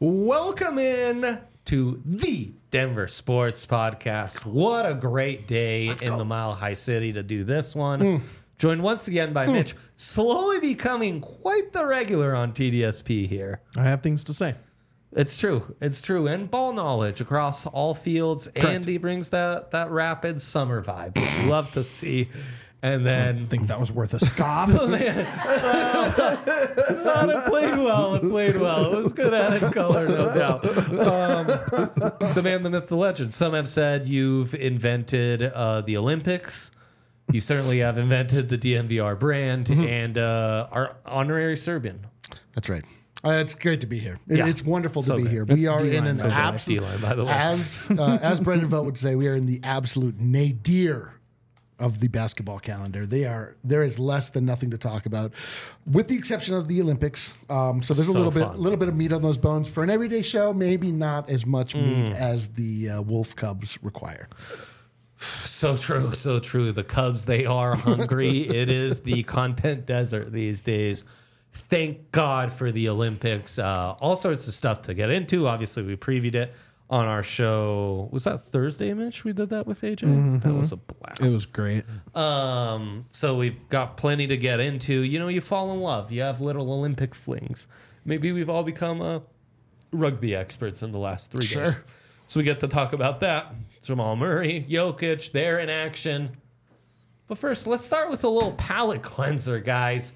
Welcome in to the Denver Sports Podcast. What a great day in the Mile High City to do this one. Joined once again by Mitch, slowly becoming quite the regular on TDSP here. I have things to say. It's true. It's true. And ball knowledge across all fields. Correct. And he brings that rapid summer vibe, which you love to see. And then I think that was worth a scoff. it played well. It played well. It was good added color, no doubt. The man, the myth, the legend. Some have said you've invented the Olympics. You certainly have invented the DNVR brand and our honorary Serbian. That's right. It's great to be here. Yeah. It's wonderful So to be good. here. That's We are in an So good. absolute, D-line, by the way. as Brendan Velt would say, we are in the absolute nadir of the basketball calendar. There is less than nothing to talk about, with the exception of the Olympics. So there's So a fun. little bit of meat on those bones for an everyday show. Maybe not as much meat as the Wolf Cubs require. So true. So true. The Cubs, they are hungry. It is the content desert these days. Thank God for the Olympics. All sorts of stuff to get into. Obviously, we previewed it on our show. Was that Thursday, Mitch? We did that with AJ? That was a blast. It was great. So we've got plenty to get into. You know, you fall in love. You have little Olympic flings. Maybe we've all become rugby experts in the last 3 days. Sure. So we get to talk about that. Jamal Murray, Jokic, they're in action. But first, let's start with a little palate cleanser, guys.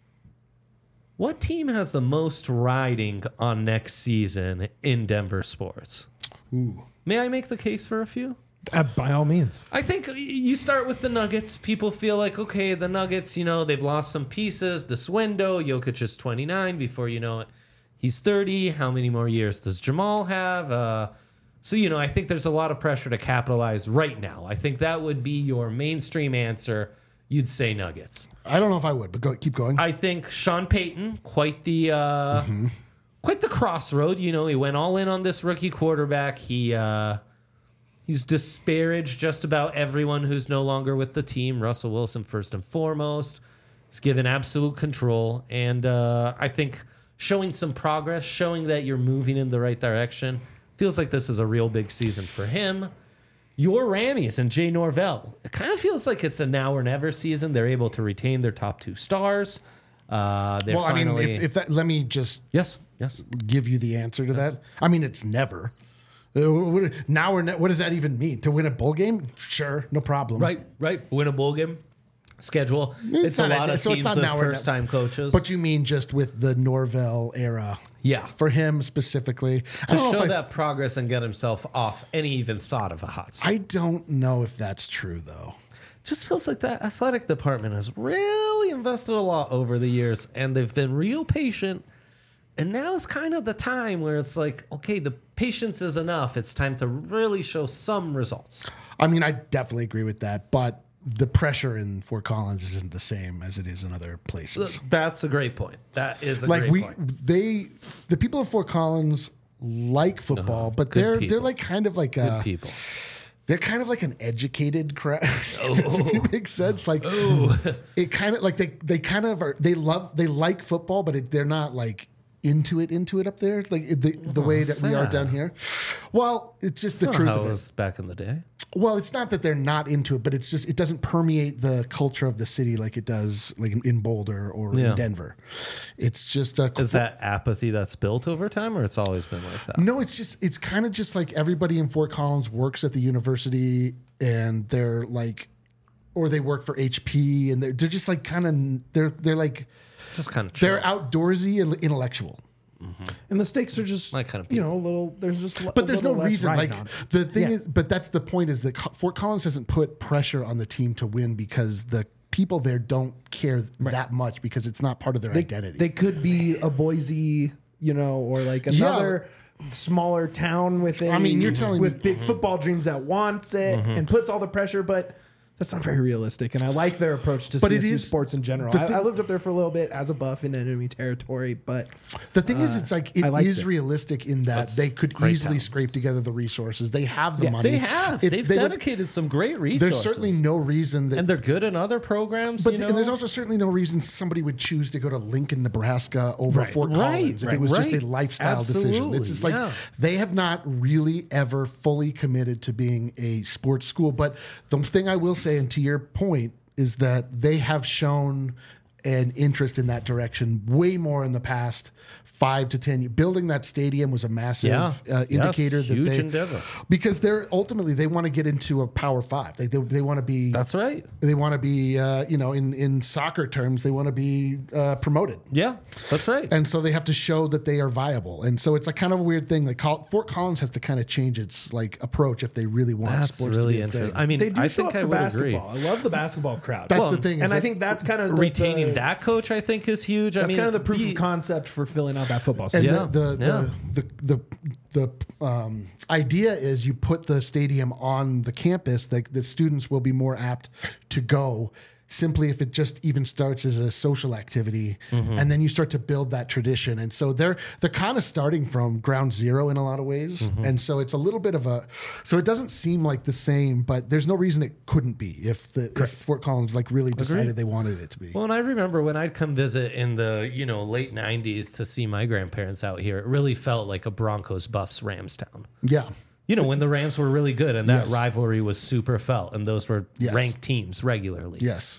What team has the most riding on next season in Denver sports? Ooh. May I make the case for a few? By all means. I think you start with the Nuggets. People feel like, okay, the Nuggets, you know, they've lost some pieces this window. Jokic is 29. Before you know it, he's 30. How many more years does Jamal have? So, you know, I think there's a lot of pressure to capitalize right now. I think that would be your mainstream answer. You'd say Nuggets. I don't know if I would, but keep going. I think Sean Payton, quite the crossroad. You know, he went all in on this rookie quarterback. He's disparaged just about everyone who's no longer with the team. Russell Wilson, first and foremost. He's given absolute control. And I think showing some progress, showing that you're moving in the right direction, feels like this is a real big season for him. Your Rammies and Jay Norvell. It kind of feels like it's a now or never season. They're able to retain their top two stars. Well, I mean, if that, let me just Yes. give you the answer to that. I mean, it's never. Now or what does that even mean? To win a bowl game? Sure, no problem. Right. Win a bowl game. Schedule. It's a not lot of so it's teams not with now or first-time coaches. But you mean just with the Norvell era? Yeah. For him specifically. To show that progress and get himself off any even thought of a hot seat. I don't know if that's true, though. Just feels like that athletic department has really invested a lot over the years, and they've been real patient. And now is kind of the time where it's like, okay, the patience is enough. It's time to really show some results. I mean, I definitely agree with that, but the pressure in Fort Collins isn't the same as it is in other places. That's a great point. That is a Like great point. the people of Fort Collins like football, but good they're people. like kind of like Good people. they're kind of like an educated crowd. If it makes sense. Like it kind of like they kind of are. They like football, but they're not like into it up there, like the way that we are sad. down here. Well, it's just the That's truth not how of it it. was back in the day. Well, it's not that they're not into it, but it's just it doesn't permeate the culture of the city like it does like in Boulder or Yeah. in Denver. It's just Is that apathy that's built over time, or it's always been like that? no, it's kind of just like everybody in Fort Collins works at the university and they're like, or they work for HP and they're just like kind of they're like Just kind of they're outdoorsy and intellectual. And the stakes are just, My kind of you know, a little, there's just, But there's no reason. Like riding on it. the thing Yeah. is, but that's the point is that Fort Collins hasn't put pressure on the team to win because the people there don't care that much because it's not part of their identity. They could be a Boise, you know, or like another smaller town within. I mean, you're telling with me- big football dreams that wants it and puts all the pressure, but That's not very realistic, and I like their approach to But it CSU is- sports in general. I lived up there for a little bit as a buff in enemy territory, but The thing is, it's like it I liked is it. realistic in that they could great easily town. scrape together the resources. They have the money. They have. They've they would- dedicated some great resources. There's certainly no reason that. and they're good in other programs. But you know? and there's also certainly no reason somebody would choose to go to Lincoln, Nebraska over Fort Collins if it was just a lifestyle decision. Absolutely, It's just like yeah. they have not really ever fully committed to being a sports school. But the thing I will say, and to your point, is that they have shown an interest in that direction way more in the past 5 to 10 years. Building that stadium was a massive indicator that huge they, endeavor. because they're ultimately they want to get into a Power 5. They want to be That's right. they want to be, in soccer terms, they want to be promoted. Yeah, that's right. And so they have to show that they are viable. And so it's like kind of a weird thing. Like Fort Collins has to kind of change its like approach if they really want That's sports really to be a interesting. thing. I mean, they do I show think up I for would agree. basketball. I love the basketball crowd. That's the thing. and is I that- think that's kind of Retaining that coach, I think, is huge. That's I mean, kind of the proof of concept for filling out that football and stadium. the idea is you put the stadium on the campus, that the students will be more apt to go simply if it just even starts as a social activity, and then you start to build that tradition. And so they're kind of starting from ground zero in a lot of ways. And so it's a little bit of so it doesn't seem like the same, but there's no reason it couldn't be if Fort Collins like really decided they wanted it to be. Well, and I remember when I'd come visit in the late '90s to see my grandparents out here. It really felt like a Broncos Buffs Rams town. Yeah. When the Rams were really good and that Yes. rivalry was super felt, and those were Yes. ranked teams regularly. Yes.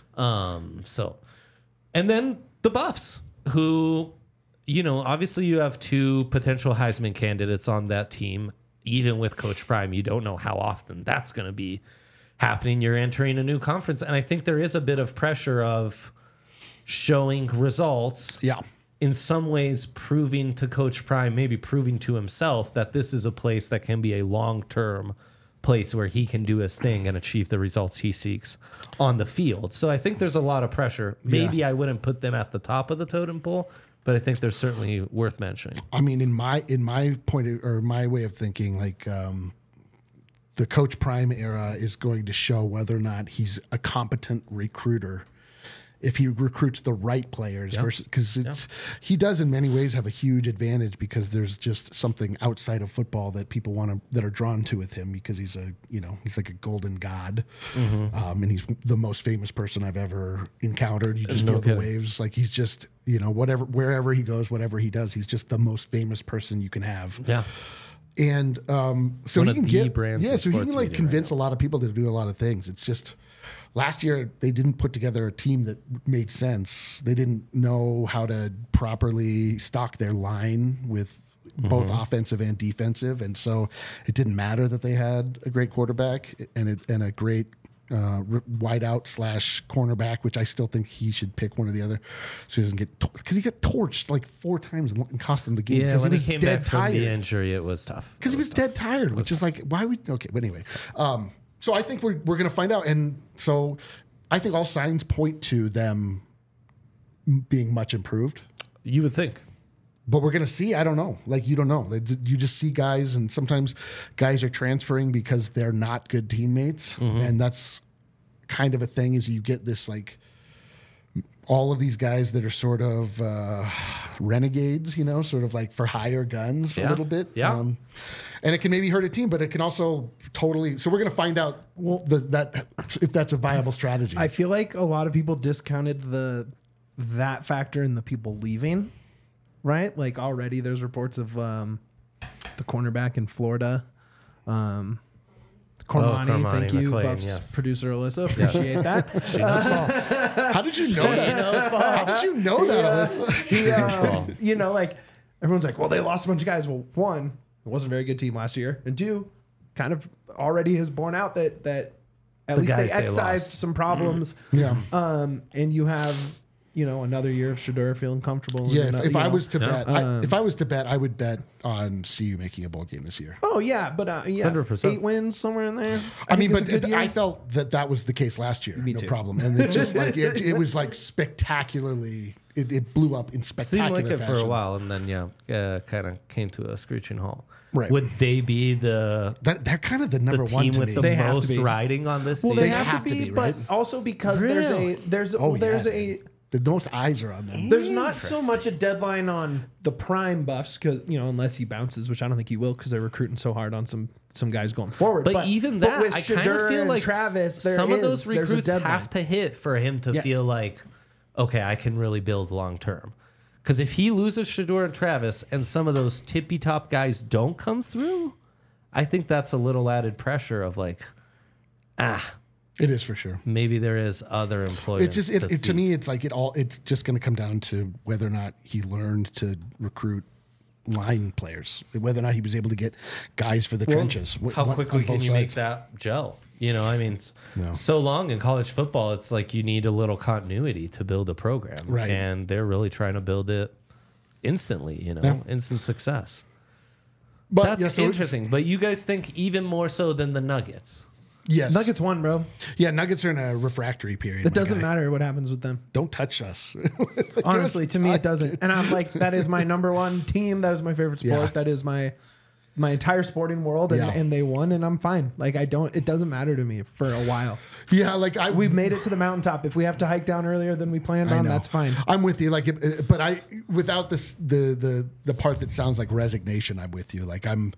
And then the Buffs, who, obviously you have 2 potential Heisman candidates on that team. Even with Coach Prime, you don't know how often that's going to be happening. You're entering a new conference, and I think there is a bit of pressure of showing results. Yeah. In some ways, proving to Coach Prime, maybe proving to himself that this is a place that can be a long-term place where he can do his thing and achieve the results he seeks on the field. So I think there's a lot of pressure. Maybe I wouldn't put them at the top of the totem pole, but I think they're certainly worth mentioning. I mean, in my my way of thinking, like the Coach Prime era is going to show whether or not he's a competent recruiter. If he recruits the right players, because he does in many ways have a huge advantage because there's just something outside of football that people that are drawn to with him because he's he's like a golden god, and he's the most famous person I've ever encountered. You just feel the waves, like he's just wherever he goes, whatever he does, he's just the most famous person you can have. Yeah. And so One he of can the get brands of so he can sports like media convince a lot of people to do a lot of things. It's just last year they didn't put together a team that made sense. They didn't know how to properly stock their line with both offensive and defensive, and so it didn't matter that they had a great quarterback and a great wideout / cornerback, which I still think he should pick one or the other, so he doesn't get because he got torched like 4 times and cost him the game. Yeah, when he he came dead back from tired. the injury, it was tough. Because he was dead tired, which is like, why would, okay, but anyways. So I think we're going to find out. And so I think all signs point to them being much improved. You would think. But we're going to see. I don't know. Like, you don't know. You just see guys, and sometimes guys are transferring because they're not good teammates. And that's kind of a thing is you get this, like, all of these guys that are sort of renegades, sort of like for hire guns a little bit. Yeah. And it can maybe hurt a team, but it can also totally. So we're going to find out that if that's a viable strategy. I feel like a lot of people discounted that factor in the people leaving, right? Like already there's reports of the cornerback in Florida. Cormani, thank you, McClain, Buff's yes. producer Alyssa. Appreciate that. She knows ball. How did you know that? How did you know that, Alyssa? He, like everyone's like, well, they lost a bunch of guys. Well, 1, it wasn't a very good team last year, and 2, kind of already has borne out that at least they guys they excised lost. some problems. Yeah. And you have another year of Shedeur feeling comfortable. Yeah, and, if I was to bet, Um, if I was to bet, I would bet on CU making a bowl game this year. Oh yeah, but 100%. 8 wins somewhere in there. I mean, think is but a good year. I felt that was the case last year. No too. problem. And it just like it was like spectacularly. It blew up in Seemed spectacular like it fashion. for a while, and then kind of came to a screeching halt. Right. Would they be the They're kind of the number one team to with me. the They have to most be. riding on this Well, season? they have to be, right? but also because Really? there's Oh, there's yeah. a The most eyes are on them. there's not so much a deadline on the prime buffs because unless he bounces, which I don't think he will because they're recruiting so hard on some guys going forward. But even that, with I kind of Shedeur feel and like Travis, some of those there's a recruits deadline. have to hit for him to Yes. feel like, okay, I can really build long term. Because if he loses Shedeur and Travis and some of those tippy top guys don't come through, I think that's a little added pressure of like, It is for sure. maybe there is other employers. It just to me, it's like it's just going to come down to whether or not he learned to recruit line players, whether or not he was able to get guys for the trenches. How on quickly can both you make sides. that gel? I mean, No. so long in college football, it's like you need a little continuity to build a program. Right. And they're really trying to build it instantly, instant success. But That's yeah, so interesting. But you guys think even more so than the Nuggets? Yes, Nuggets won, bro. Yeah, Nuggets are in a refractory period. It my doesn't guy. matter what happens with them. Don't touch us. Honestly, to me, it doesn't. And I'm like, that is my number one team. That is my favorite sport. Yeah. That is my entire sporting world. And, Yeah. and they won, and I'm fine. Like, it doesn't matter to me for a while. Yeah, like We've made it to the mountaintop. If we have to hike down earlier than we planned I on, know. that's fine. I'm with you. Like, but without this, the part that sounds like resignation, I'm with you. Like, I'm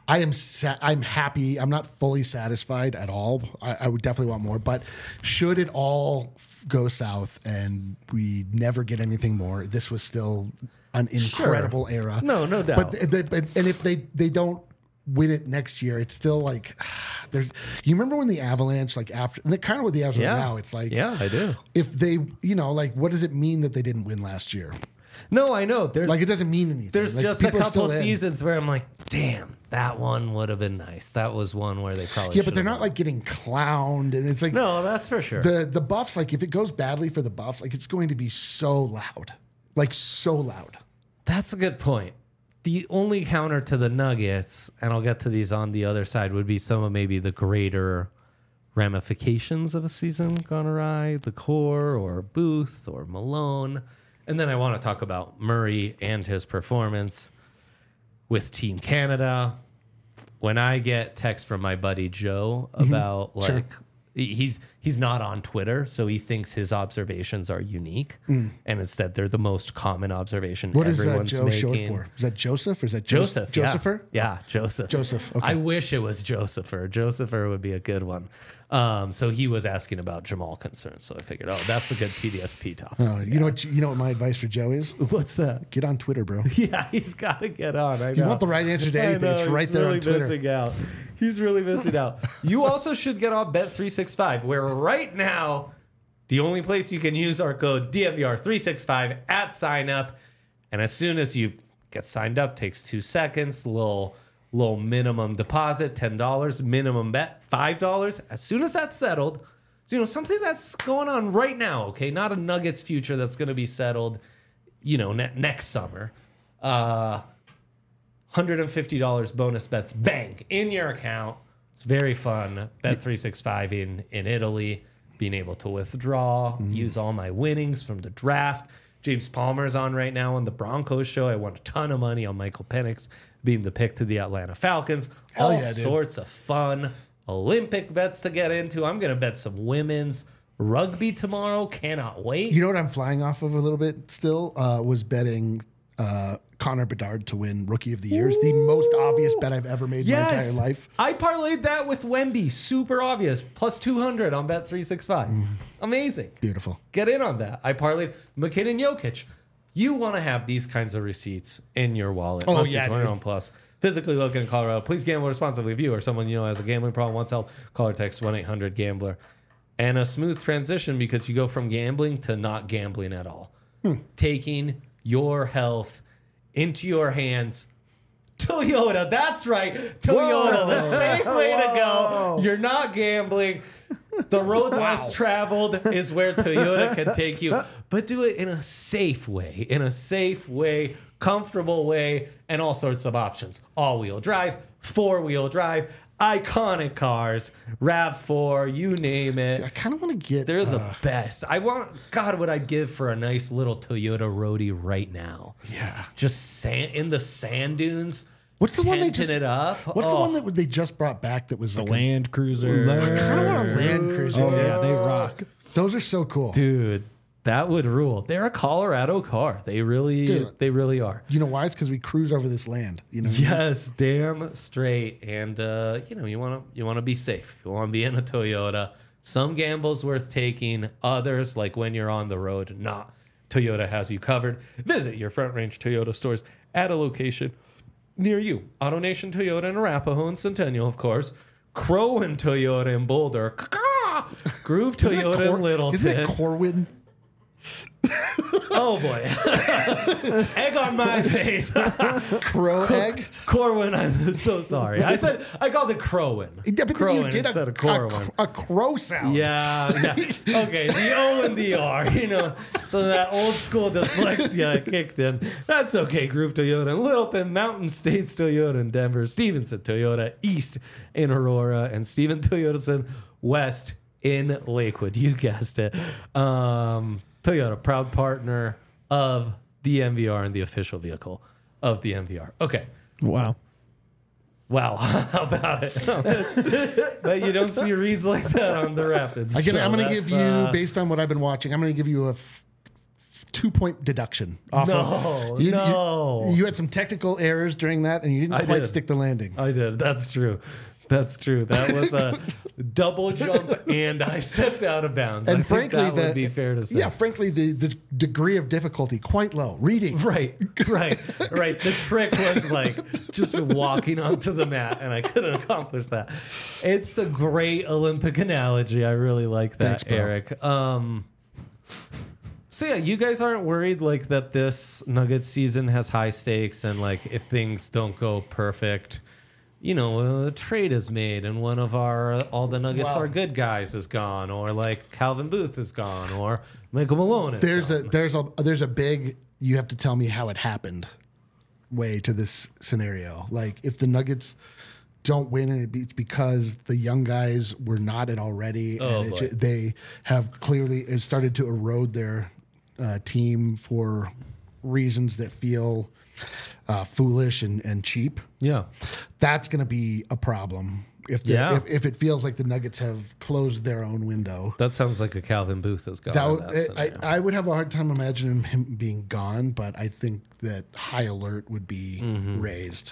happy. I'm not fully satisfied at all. I would definitely want more. But should it all go south and we never get anything more, this was still an incredible era. No doubt. But and if they don't win it next year, it's still like there's. You remember when the Avalanche, like after, and kind of what the Avalanche are now, it's like, yeah, I do. if they, like, what does it mean that they didn't win last year? No, I know. There's Like, it doesn't mean anything. there's Like, just a people are couple still in. seasons where I'm like, damn, that one would have been nice. That was one where they probably Yeah, but they're should've not won. like getting clowned, and it's like No, that's for sure. the Buffs. Like, if it goes badly for the Buffs, like, it's going to be so loud, like so loud. That's a good point. The only counter to the Nuggets, and I'll get to these on the other side, would be some of maybe the greater ramifications of a season gone awry, the core or Booth or Malone. And then I want to talk about Murray and his performance with Team Canada. When I get text from my buddy Joe about Sure. he's not on Twitter, so he thinks his observations are unique, and instead they're the most common observation What is everyone's Joe short making. for? Is that Joseph or is that Joseph. Josepher? Yeah, Joseph. Joseph, okay. I wish it was Josepher. Josepher would be a good one. So he was asking about Jamal concerns. So I figured, that's a good TDSP topic. You know what my advice for Joe is? What's that? Get on Twitter, bro. Yeah, he's got to get on. I know. You want the right answer to I anything? know, It's right he's there really on Twitter. Missing out. He's really missing out. You also should get on Bet365, where right now the only place you can use our code DMVR365 at sign up, and as soon as you get signed up, takes 2 seconds. Little minimum deposit, $10, minimum bet, $5. As soon as that's settled, so, something that's going on right now, okay? Not a Nuggets future that's going to be settled, next summer. $150 bonus bets, bang, in your account. It's very fun. Bet365 in Italy, being able to withdraw, use all my winnings from the draft. James Palmer's on right now on the Broncos show. I won a ton of money on Michael Penix being the pick to the Atlanta Falcons. Hell All yeah, dude. sorts of fun Olympic bets to get into. I'm going to bet some women's rugby tomorrow. Cannot wait. You know what I'm flying off of a little bit still? Was betting Connor Bedard to win Rookie of the Year. It's the most obvious bet I've ever made in my entire life. I parlayed that with Wemby. Super obvious. Plus 200 on Bet365. Amazing. Beautiful. Get in on that. I parlayed McKinnon Jokic. You want to have these kinds of receipts in your wallet. Oh, Must yeah, be dude. 21 plus. Physically located in Colorado. Please gamble responsibly. If you or someone you know has a gambling problem, wants help, call or text 1-800-GAMBLER. And a smooth transition because you go from gambling to not gambling at all. Taking your health into your hands. Toyota, that's right. Toyota, the safe way to go. You're not gambling. The road less traveled is where Toyota can take you, but do it in a safe way, comfortable way, and all sorts of options. All-wheel drive, four-wheel drive, iconic cars, RAV4, you name it. I kind of want to get. They're the best. God, what I'd give for a nice little Toyota Roadie right now. Yeah. Just in the sand dunes. What's the one they just it up? What's the one that they just brought back that was The like Land Cruiser. I kind of want a Land Cruiser. Oh yeah, they rock. Those are so cool. Dude, that would rule. They're a Colorado car. They really are. You know why? It's because we cruise over this land. You know. Yes, damn straight. And you want to be safe. You want to be in a Toyota. Some gambles worth taking. Others, like when you're on the road, not. Toyota has you covered. Visit your Front Range Toyota stores at a location near you. AutoNation Toyota in Arapahoe and Centennial, of course. Crowan Toyota in Boulder. Groove Toyota in Littleton. Isn't it Corwin? Oh boy. Egg on my face. Crow egg? Corwin, I'm so sorry. I called it Crowin. Yeah, but Crowin then you did instead of Corwin. a crow sound. Yeah. Okay, the O and the R, so that old school dyslexia kicked in. That's okay. Groove Toyota in Littleton, Mountain States Toyota in Denver, Stevenson Toyota East in Aurora, and Steven Toyotason West in Lakewood. You guessed it. Toyota, proud partner of the MVR and the official vehicle of the MVR. Okay. Wow. How about it? But you don't see reads like that on the Rapids. I'm going to That's, give you, based on what I've been watching, I'm going to give you a 2-point deduction. Off you had some technical errors during that, and you didn't quite stick the landing. I did. That's true. That was a double jump, and I stepped out of bounds. And I frankly, think that would be fair to say. Yeah, frankly, the degree of difficulty quite low. Reading. Right. The trick was like just walking onto the mat, and I couldn't accomplish that. It's a great Olympic analogy. I really like that, Thanks, bro. Eric. So yeah, you guys aren't worried like that this Nuggets season has high stakes, and like if things don't go perfect, a trade is made and one of all the Nuggets are good guys is gone, or like Calvin Booth is gone, or Michael Malone is gone. There's a big, you have to tell me how it happened way to this scenario. Like if the Nuggets don't win and it's because the young guys were not it already, and they have clearly started to erode their team for reasons that feel foolish and cheap. Yeah. That's going to be a problem if it feels like the Nuggets have closed their own window. That sounds like a Calvin Booth is gone. I would have a hard time imagining him being gone, but I think that high alert would be raised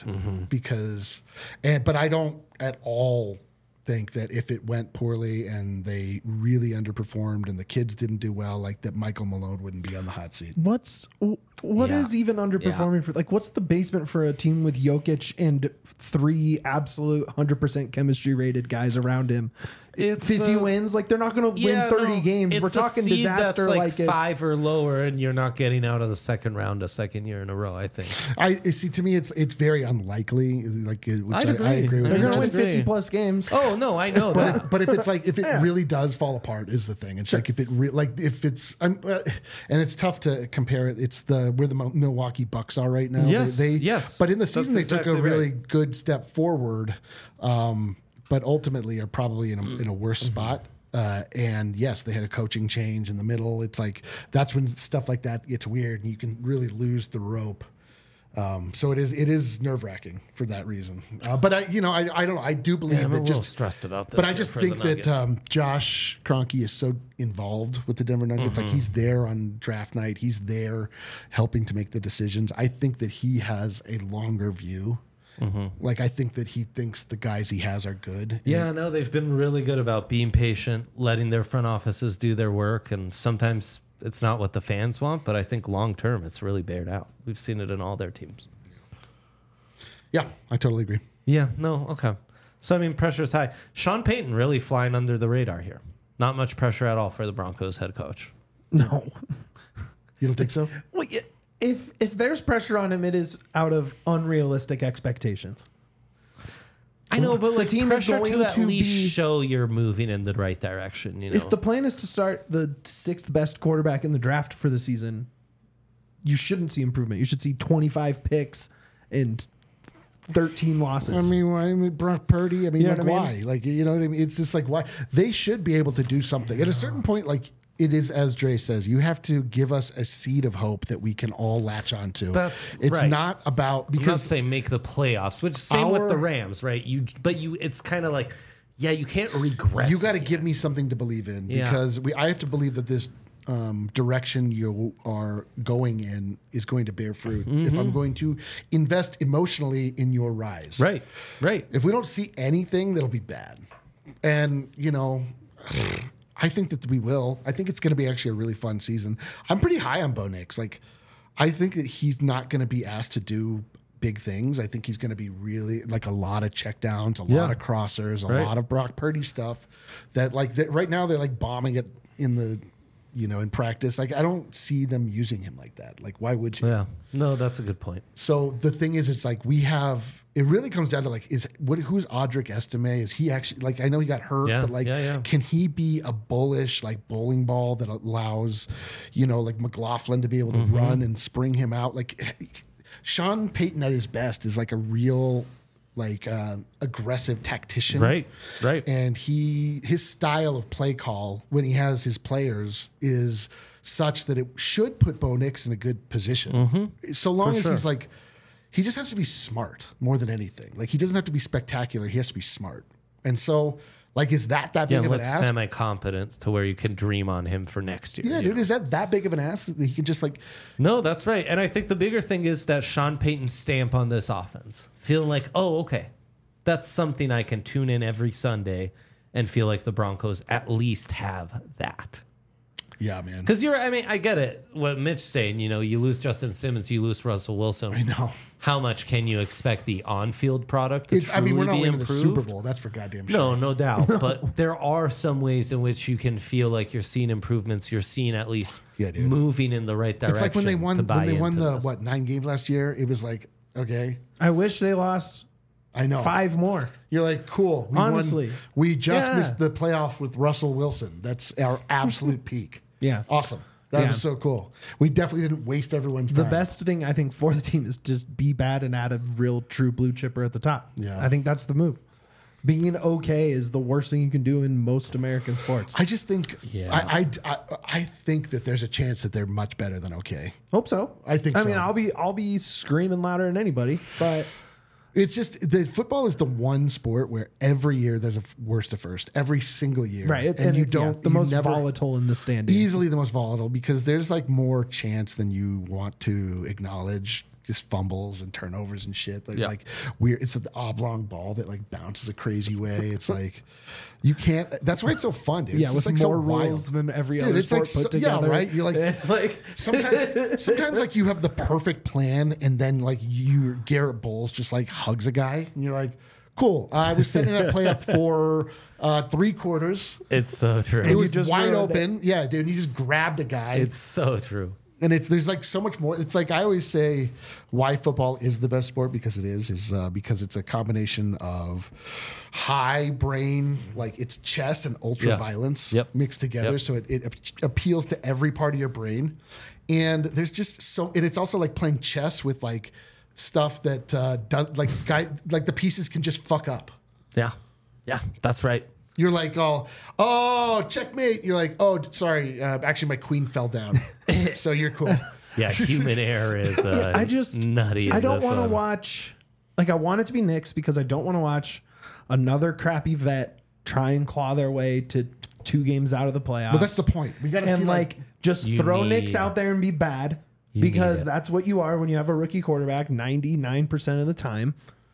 but I don't at all think that if it went poorly and they really underperformed and the kids didn't do well, like that Michael Malone wouldn't be on the hot seat. What is even underperforming for? Like, what's the basement for a team with Jokic and 3 absolute 100% chemistry rated guys around him? It's 50 wins. Like, they're not going to win 30 games. We're talking disaster. That's like 5 or lower, and you're not getting out of the second round a second year in a row. I think. I see. To me, it's very unlikely. Like, I agree. I agree with. They're going to win agree. 50 plus games. Oh no, I know that. But if it's like if it really does fall apart is the thing. It's like if it if it's and it's tough to compare it. It's where the Milwaukee Bucks are right now. Yes. But in the season That's they took a exactly really right. good step forward, but ultimately are probably in a worse spot. And yes, they had a coaching change in the middle. It's like that's when stuff like that gets weird, and you can really lose the rope. So it is nerve wracking for that reason. But I don't know. I do believe I'm a that little just stressed about this. but I just think that Josh Kroenke is so involved with the Denver Nuggets. Like he's there on draft night. He's there helping to make the decisions. I think that he has a longer view. Like I think that he thinks the guys he has are good. Yeah, no, they've been really good about being patient, letting their front offices do their work, and sometimes it's not what the fans want, but I think long term it's really bared out. We've seen it in all their teams. Yeah, I totally agree. Yeah, no, okay. So, I mean, pressure's high. Sean Payton really flying under the radar here. Not much pressure at all for the Broncos head coach. No. You don't think so? Well, yeah, if there's pressure on him, it is out of unrealistic expectations. I know, but like team is pressure going to at to least be- show you're moving in the right direction. You know, If the plan is to start the 6th best quarterback in the draft for the season, you shouldn't see improvement. You should see 25 picks and 13 losses. I mean, Brock Purdy. I mean, You know like, what I why? mean? Like, you know what I mean? It's just like, why? They should be able to do something. At a certain point, like, it is, as Dre says, you have to give us a seed of hope that we can all latch onto. It's right. not about, I'm not because saying make the playoffs, which same with the Rams, right? It's kind of like, yeah, you can't regress. you got to again. give me something to believe in, Yeah. because I have to believe that this direction you are going in is going to bear fruit. If I'm going to invest emotionally in your rise. Right, right. If we don't see anything, that'll be bad. And, you know, I think that we will. I think it's going to be actually a really fun season. I'm pretty high on Bo Nix. Like, I think that he's not going to be asked to do big things. I think he's going to be really like a lot of checkdowns, a lot of crossers, a lot of Brock Purdy stuff that like right now they're like bombing it in the, you know, in practice. Like, I don't see them using him like that. Like, why would you? Yeah, no, that's a good point. So the thing is, it's like it really comes down to like, who's Audric Estime? Is he actually, like, I know he got hurt, Yeah, but like, yeah. can he be a bullish, like, bowling ball that allows, you know, like McLaughlin to be able to run and spring him out? Like, Sean Payton at his best is like a real, like, aggressive tactician. Right. And his style of play call when he has his players is such that it should put Bo Nix in a good position. So long as he's like, he just has to be smart more than anything. Like, he doesn't have to be spectacular. He has to be smart. And so, like, is that big Yeah, of an with ask? semi-competence to where you can dream on him for next year. Yeah, you dude, know? is that big of an ask that he can just like? No, that's right. And I think the bigger thing is that Sean Payton's stamp on this offense. Feeling like, oh, okay, that's something I can tune in every Sunday and feel like the Broncos at least have that. Yeah, man. Because I get it. What Mitch's saying, you know, you lose Justin Simmons, you lose Russell Wilson. I know. How much can you expect the on-field product to truly we're not be winning the improved? Super Bowl. That's for goddamn sure. No doubt. But there are some ways in which you can feel like you're seeing improvements. You're seeing at least moving in the right direction. It's like when they won the this. 9 games last year. It was like, okay, I wish they lost I know 5 more. You're like, cool. Honestly. We just Yeah. missed the playoff with Russell Wilson. That's our absolute peak. Yeah. Awesome. That Yeah. was so cool. We definitely didn't waste everyone's The time. best thing I think for the team is just be bad and add a real true blue chipper at the top. Yeah. I think that's the move. Being okay is the worst thing you can do in most American sports. I just think, Yeah. I think that there's a chance that they're much better than okay. Hope so. I think I so. mean, I'll be screaming louder than anybody, but It's just the football is the one sport where every year there's a worst to first, every single year, right. And you it's, don't the you most never- volatile in the standings. easily the most volatile because there's like more chance than you want to acknowledge. Just fumbles and turnovers and shit. Like weird. It's an oblong ball that like bounces a crazy way. It's like you can't. That's why it's so fun, dude. Yeah, It's with just, like, more so rules wild. than every Dude, other it's like sport put so- yeah, together. right? You're like sometimes like you have the perfect plan and then like Garrett Bowles just like hugs a guy and you're like, cool. I was setting that play up for 3 quarters. It's so true. It was just wide ruined open. Yeah, dude. You just grabbed a guy. It's so true. And there's like so much more. It's like I always say why football is the best sport because it is because it's a combination of high brain, like it's chess and ultra violence mixed together. Yep. So it appeals to every part of your brain. And there's just and it's also like playing chess with like stuff that like the pieces can just fuck up. Yeah, that's right. You're like, oh, checkmate. You're like, oh, sorry. Actually, my queen fell down. So you're cool. Yeah, human error is I just nutty. I don't want to watch. Like I want it to be Knicks because I don't want to watch another crappy vet try and claw their way to 2 games out of the playoffs. But that's the point. We got to see And like just You throw need- Knicks out there and be bad need because it. that's what you are when you have a rookie quarterback 99% of the time.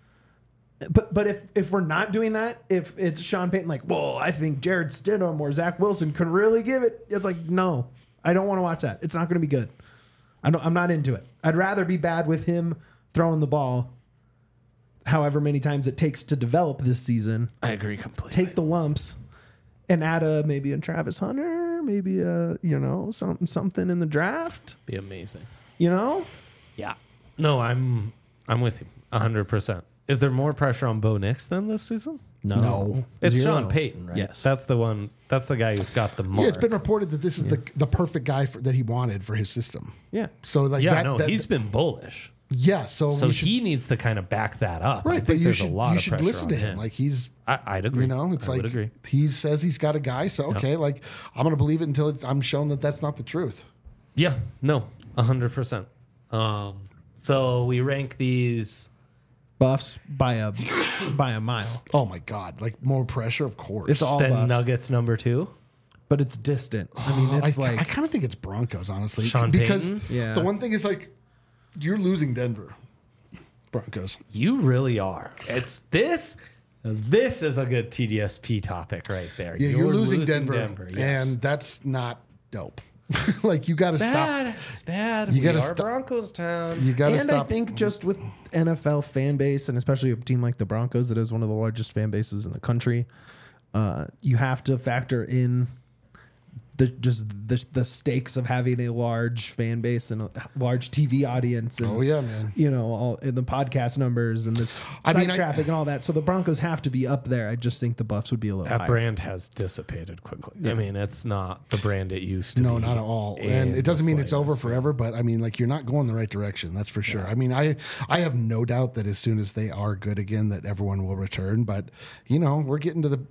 But if we're not doing that, if it's Sean Payton like, well, I think Jared Stidham or Zach Wilson could really give it. It's like, no, I don't want to watch that. It's not going to be good. I'm not into it. I'd rather be bad with him throwing the ball however many times it takes to develop this season. I agree completely. Take the lumps and add maybe a Travis Hunter, maybe something in the draft. Be amazing. You know, Yeah. No, I'm with you 100%. Is there more pressure on Bo Nix than this season? No. It's Zero. Sean Payton, right? Yes. That's the one. That's the guy who's got the mark. Yeah, it's been reported that this is the perfect guy that he wanted for his system. Yeah. So like he's been bullish. yeah. So He needs to kind of back that up. right. I but think you there's should, a lot you of should pressure listen on to him. Like he's I'd agree. you know it's I would like agree. he says he's got a guy. So okay, like I'm gonna believe it until I'm shown that that's not the truth. Yeah, no, 100%. So we rank these. Buffs by a mile. Oh my god! Like more pressure, of course. It's all Then Buffs, Nuggets number 2. but it's distant. I mean, it's I like kind of think it's Broncos, honestly, Sean because Payton? Yeah. the one thing is like you're losing Denver Broncos. You really are. It's this. This is a good TDSP topic right there. Yeah, you're losing Denver, yes. and that's not dope. Like you got to stop. bad. It's bad. You We gotta are stop- Broncos town. You got to and stop. I think just with NFL fan base, and especially a team like the Broncos that is one of the largest fan bases in the country, you have to factor in the stakes of having a large fan base and a large TV audience. And, Oh, yeah, man. You know, all in the podcast numbers and this site traffic and all that. So the Broncos have to be up there. I just think the Buffs would be a little That higher. brand has dissipated quickly. I mean, it's not the brand it used to No, be. not at all. in And it doesn't the mean it's over slightest. forever, but I mean, like you're not going the right direction. That's for sure. I mean, I have no doubt that as soon as they are good again, that everyone will return. But you know, we're getting to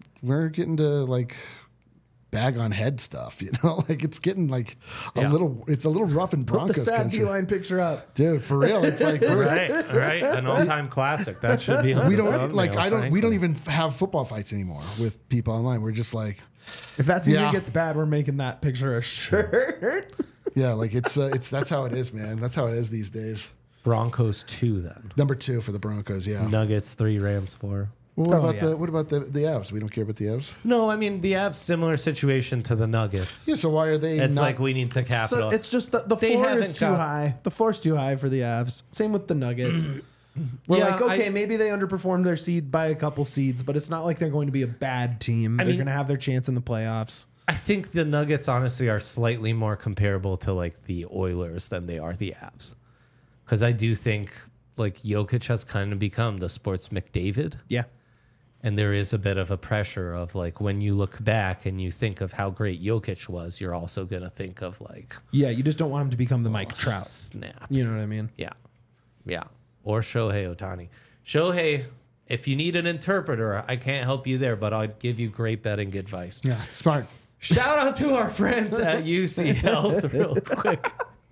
like bag on head stuff. You know, like it's getting like Yeah. it's a little rough in Put the Broncos sad country. D-line picture up. Dude, for real, it's like we're, Right. An all-time classic. That should be on we the don't like thumbnail, we don't frankly. even have football fights anymore with people online. We're just like, If that season Yeah. gets bad, we're making that picture a shirt. yeah, like it's that's how it is, man. That's how it is these days. Broncos 2 then. Number 2 for the Broncos, yeah. Nuggets 3, Rams 4. Well, Oh, what about the Avs? We don't care about the Avs. No, I mean the Avs similar situation to the Nuggets. Yeah, so why are they? It's not, like we need to So capitalize. it's just the They floor is haven't too got- high. The floor's too high for the Avs. Same with the Nuggets. We're Yeah, like, okay, I- maybe they underperformed their seed by a couple seeds, but it's not like they're going to be a bad team. They're mean- going to have their chance in the playoffs. I think the Nuggets honestly are slightly more comparable to like the Oilers than they are the Avs. Because I do think like Jokic has kind of become the sports McDavid. Yeah. And there is a bit of a pressure of like when you look back and you think of how great Jokic was, you're also going to think of like, Yeah, you just don't want him to become the Mike Trout. snap. You know what I mean? Yeah. Yeah. Or Shohei Ohtani. Shohei, if you need an interpreter, I can't help you there, but I'll give you great betting advice. Yeah, smart. Shout out to our friends at UC Health real quick.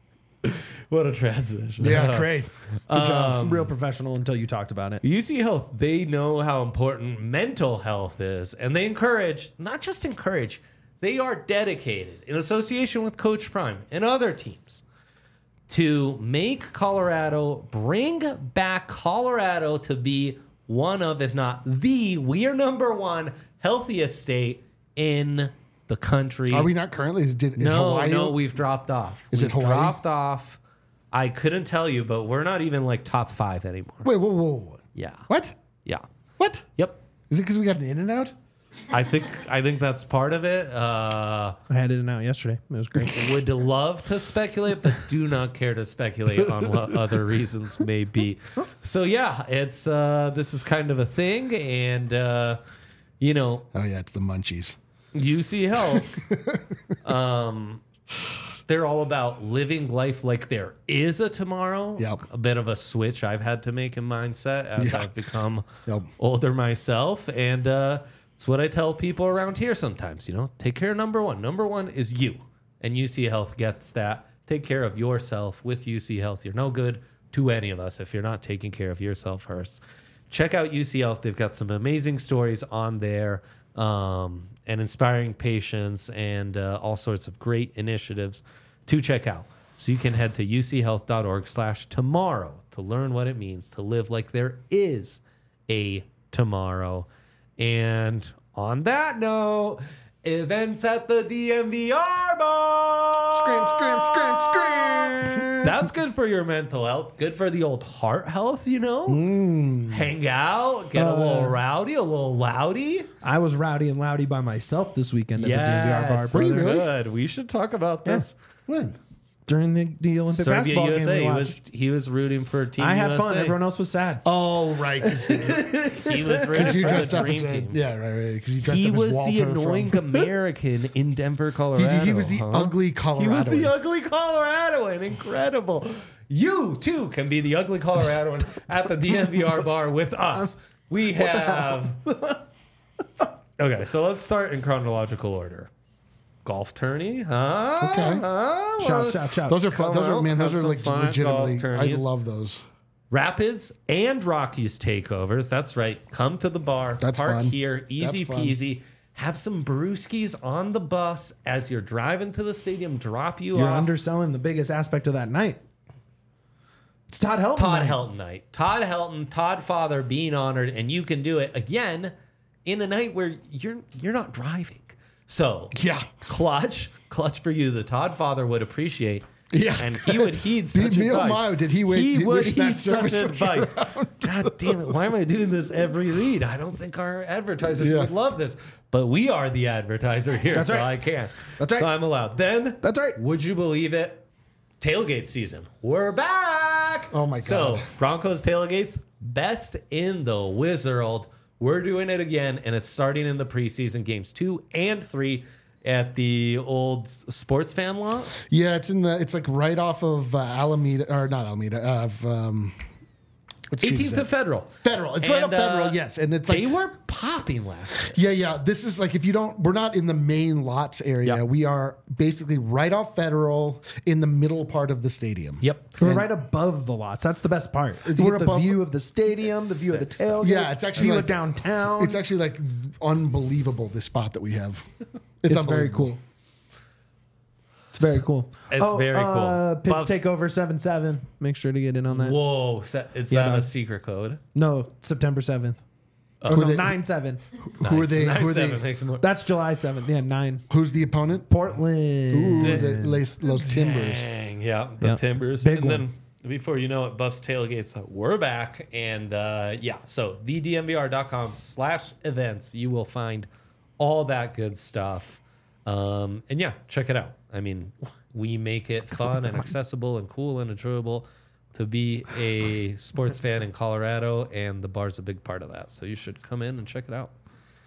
What a transition. Yeah, great. Good job. Real professional until you talked about it. UC Health, they know how important mental health is, and they encourage, not just encourage, they are dedicated in association with Coach Prime and other teams to make Colorado, bring back Colorado to be one of, if not we are number one healthiest state in the country. Are we not currently? Is No, Hawaii? no, we've dropped off. Is it We've Hawaii? dropped off. I couldn't tell you, but we're not even like top 5 anymore. Wait, whoa. Yeah. What? Yeah. What? Yep. Is it because we got an in and out? I think that's part of it. I had it in out yesterday. It was great. Would love to speculate, but do not care to speculate on what other reasons may be. So yeah, it's this is kind of a thing, and you know, Oh yeah, it's the munchies. UC Health, they're all about living life like there is a tomorrow. Yep. A bit of a switch I've had to make in mindset as Yeah. I've become Yep. older myself. And it's what I tell people around here sometimes, you know, take care of number one. Number one is you. And UC Health gets that. Take care of yourself with UC Health. You're no good to any of us if you're not taking care of yourself first. Check out UC Health. They've got some amazing stories on there. And inspiring patients and all sorts of great initiatives to check out. So you can head to uchealth.org/tomorrow to learn what it means to live like there is a tomorrow. And on that note, events at the DMVR bar. Scream. That's good for your mental health. Good for the old heart health, you know? Hang out, get a little rowdy, a little loudy. I was rowdy and loudy by myself this weekend at the DNVR bar, Yes, brother. good. We should talk about this. When? during the Olympic Serbia, basketball USA. game we He watched. was rooting for Team I had USA. fun. Everyone else was sad. Oh, right. He was rooting You for dressed the up dream as team. yeah, right. Because you dressed He up as was Walter the from- annoying American in Denver, Colorado. He was the huh? ugly Coloradoan. He was the ugly Coloradoan. Incredible. You too can be the ugly Coloradoan at the DNVR bar with us. We have. Okay, so let's start in chronological order. Golf tourney, huh? Okay. Shout, shout, shout. Those are fun. Come Those are out, man. have Those are some like fun at golf legitimately. I tourneys. love those. Rapids and Rockies takeovers. That's right. Come to the bar. That's park fun. here. Easy That's fun. peasy. Have some brewskis on the bus as you're driving to the stadium. Drop you You're off. underselling the biggest aspect of that night. It's Todd Helton. Todd night. Helton night. Todd Helton, Todd Father being honored, and you can do it again in a night where you're not driving. So Yeah. clutch for you. The Todd Father would appreciate. Yeah. And he would heed such Me, oh advice. my, did he wait- He did would wish that heed such service would be advice. God damn it. Why am I doing this every read? I don't think our advertisers Yeah. would love this. But we are the advertiser here, That's so right. I can. That's right. So I'm allowed. Then That's right. would you believe it? Tailgate season. We're back. Oh my So God. Broncos tailgates, best in the Wizard. We're doing it again, and it's starting in the preseason games 2 and 3 at the old sports fan lot. Yeah, it's like right off of Alameda, or not Alameda, of what street is 18th that? and Federal. Federal. It's right off Federal, yes. And it's They like were popping last year. yeah. This is like if you don't, we're not in the main lots area. Yep. We are basically right off Federal in the middle part of the stadium. Yep. We're right above the lots. That's the best part. Is you We're get the above view the- of the stadium, the view of the sick. tailgate. Yeah, it's actually view like- of downtown. It's actually like unbelievable this spot that we have. It's very unbelievable. cool. It's very cool. It's very cool. Pips Buffs- Takeover 7-7. Make sure to get in on that. Whoa. Is Yeah, that no. a secret code? No, September 7th. Oh, Who no, they- 9-7. Who are they? Who are 9-7 they? makes more. That's July 7th. Yeah, 9. Who's the opponent? Portland. Ooh, Los Timbers. Dang, yeah, the Yeah. Timbers. Big and one. then before you know it, Buffs tailgates, we're back. And yeah, so thednvr.com/events, you will find all that good stuff. And yeah, check it out. I mean, we make it fun and accessible and cool and enjoyable to be a sports fan in Colorado, and the bar's a big part of that. So you should come in and check it out.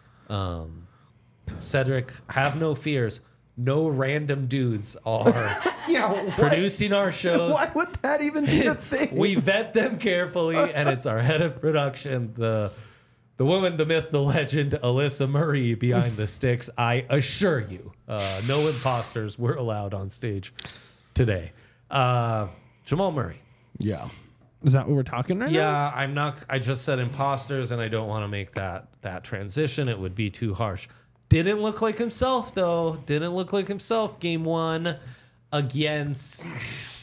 Cedric, have no fears. No random dudes are Yeah, what? producing our shows. Why would that even be a thing? We vet them carefully, and it's our head of production, the woman, the myth, the legend, Alyssa Marie behind the sticks. I assure you, no imposters were allowed on stage today. Jamal Murray. Yeah. Is that what we're talking right now? Yeah, I'm not. I just said imposters, and I don't want to make that transition. It would be too harsh. Didn't look like himself though. Didn't look like himself. Game 1 against.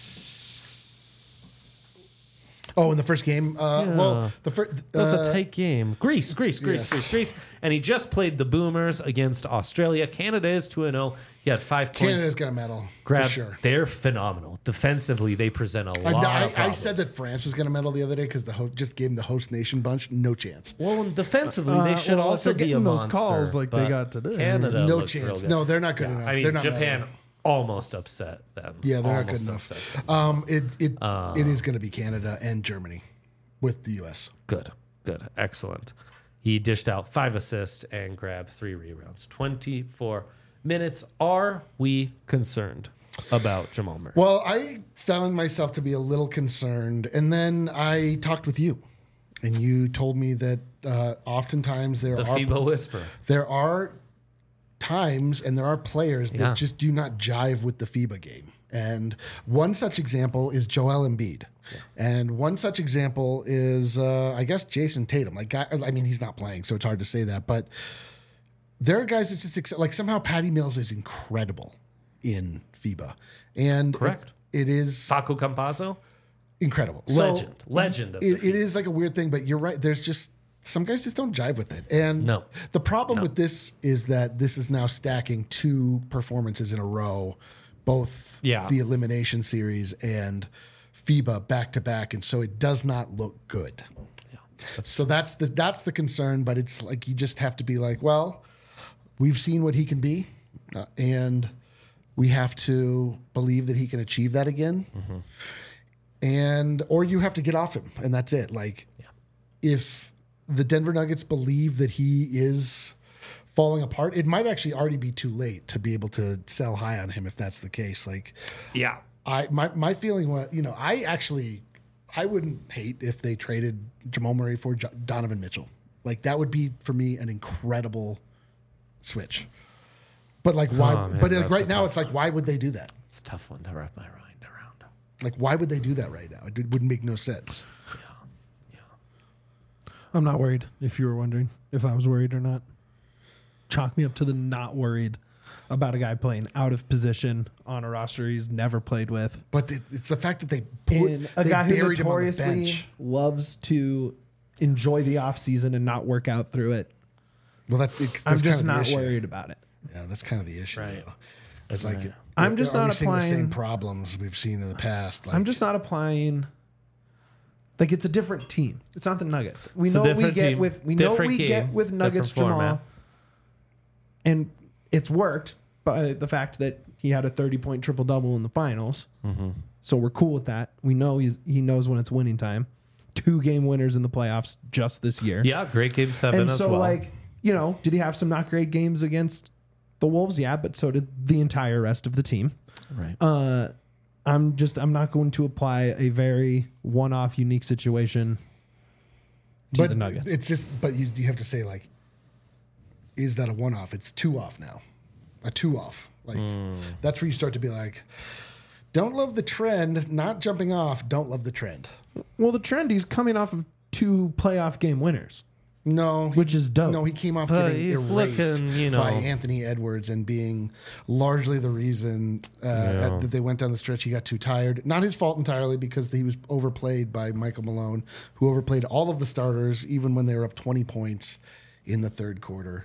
Oh, in the first game. Well, the first. It was a tight game. Greece. Yes. And he just played the Boomers against Australia. Canada is 2-0. He had 5 points. Canada's got a medal Grab. for sure. They're phenomenal. Defensively, they present a lot of I problems. said that France was going to medal the other day because the just gave them the host nation bunch. No chance. Well, and defensively, they should well, if also they're be a getting those monster. calls like they but got today. Canada No looked real chance. good. No, they're not good enough. I mean, They're not Japan medaling. almost upset them. Yeah, they're not good Almost enough. upset them. It is going to be Canada and Germany with the U.S. Good. Excellent. He dished out 5 assists and grabbed 3 rebounds. 24 minutes. Are we concerned about Jamal Murray? Well, I found myself to be a little concerned, and then I talked with you, and you told me that oftentimes The FIBA whisper. there are times and there are players that Yeah. just do not jive with the FIBA game. And one such example is Joel Embiid. And one such example is, I guess, Jason Tatum. I mean, he's not playing, so it's hard to say that. But there are guys that just, like somehow Patty Mills is incredible in FIBA. And Correct. It is Facu Campazzo, incredible. So legend of the it FIBA. is like a weird thing, but you're right. There's just some guys just don't jive with it. And No. the problem with this is that this is now stacking 2 performances in a row, both Yeah. the elimination series and FIBA back to back, and so it does not look good. So that's the concern, but it's like you just have to be like, well, we've seen what he can be, and We have to believe that he can achieve that again. Or you have to get off him, and that's it. Like, if the Denver Nuggets believe that he is falling apart, it might actually already be too late to be able to sell high on him if that's the case. Like, Yeah. my feeling was, I wouldn't hate if they traded Jamal Murray for Donovan Mitchell. Like, that would be for me an incredible switch. But like, why? Oh, man, but like, that's right a now, tough it's like, why would they do that? It's a tough one to wrap my mind around. Like, why would they do that right now? It wouldn't make no sense. I'm not worried, if you were wondering if I was worried or not. Chalk me up to the not worried about a guy playing out of position on a roster he's never played with. But it's the fact that they And a they guy who buried him on the notoriously bench. loves to enjoy the offseason and not work out through it. Well, that's I'm kind just of the not issue. worried about it. Yeah, that's kind of the issue. Right. Though. It's like I'm just are we not seeing the same applying- problems we've seen in the past. Like, I'm just not applying. Like, it's a different team. It's not the Nuggets. We It's a know we different get team, with we know different we get game, with Nuggets different Jamal, format. and it's worked by the fact that he had a 30-point triple double in the finals. So we're cool with that. We know he knows when it's winning time. 2-game winners in the playoffs just this year. Yeah, great game 7 And as so, well. like, did he have some not great games against the Wolves? Yeah, but so did the entire rest of the team. right. I'm not going to apply a very one-off unique situation to the Nuggets. It's just, but you have to say, like, is that a one-off? It's 2-off now, a 2-off. Like, that's where you start to be like, don't love the trend, not jumping off. Don't love the trend. Well, the trend, he's coming off of 2 playoff game winners. No, Which is dope. No, he came off But getting he's erased looking, by Anthony Edwards and being largely the reason that they went down the stretch. He got too tired. Not his fault entirely, because he was overplayed by Michael Malone, who overplayed all of the starters, even when they were up 20 points in the third quarter.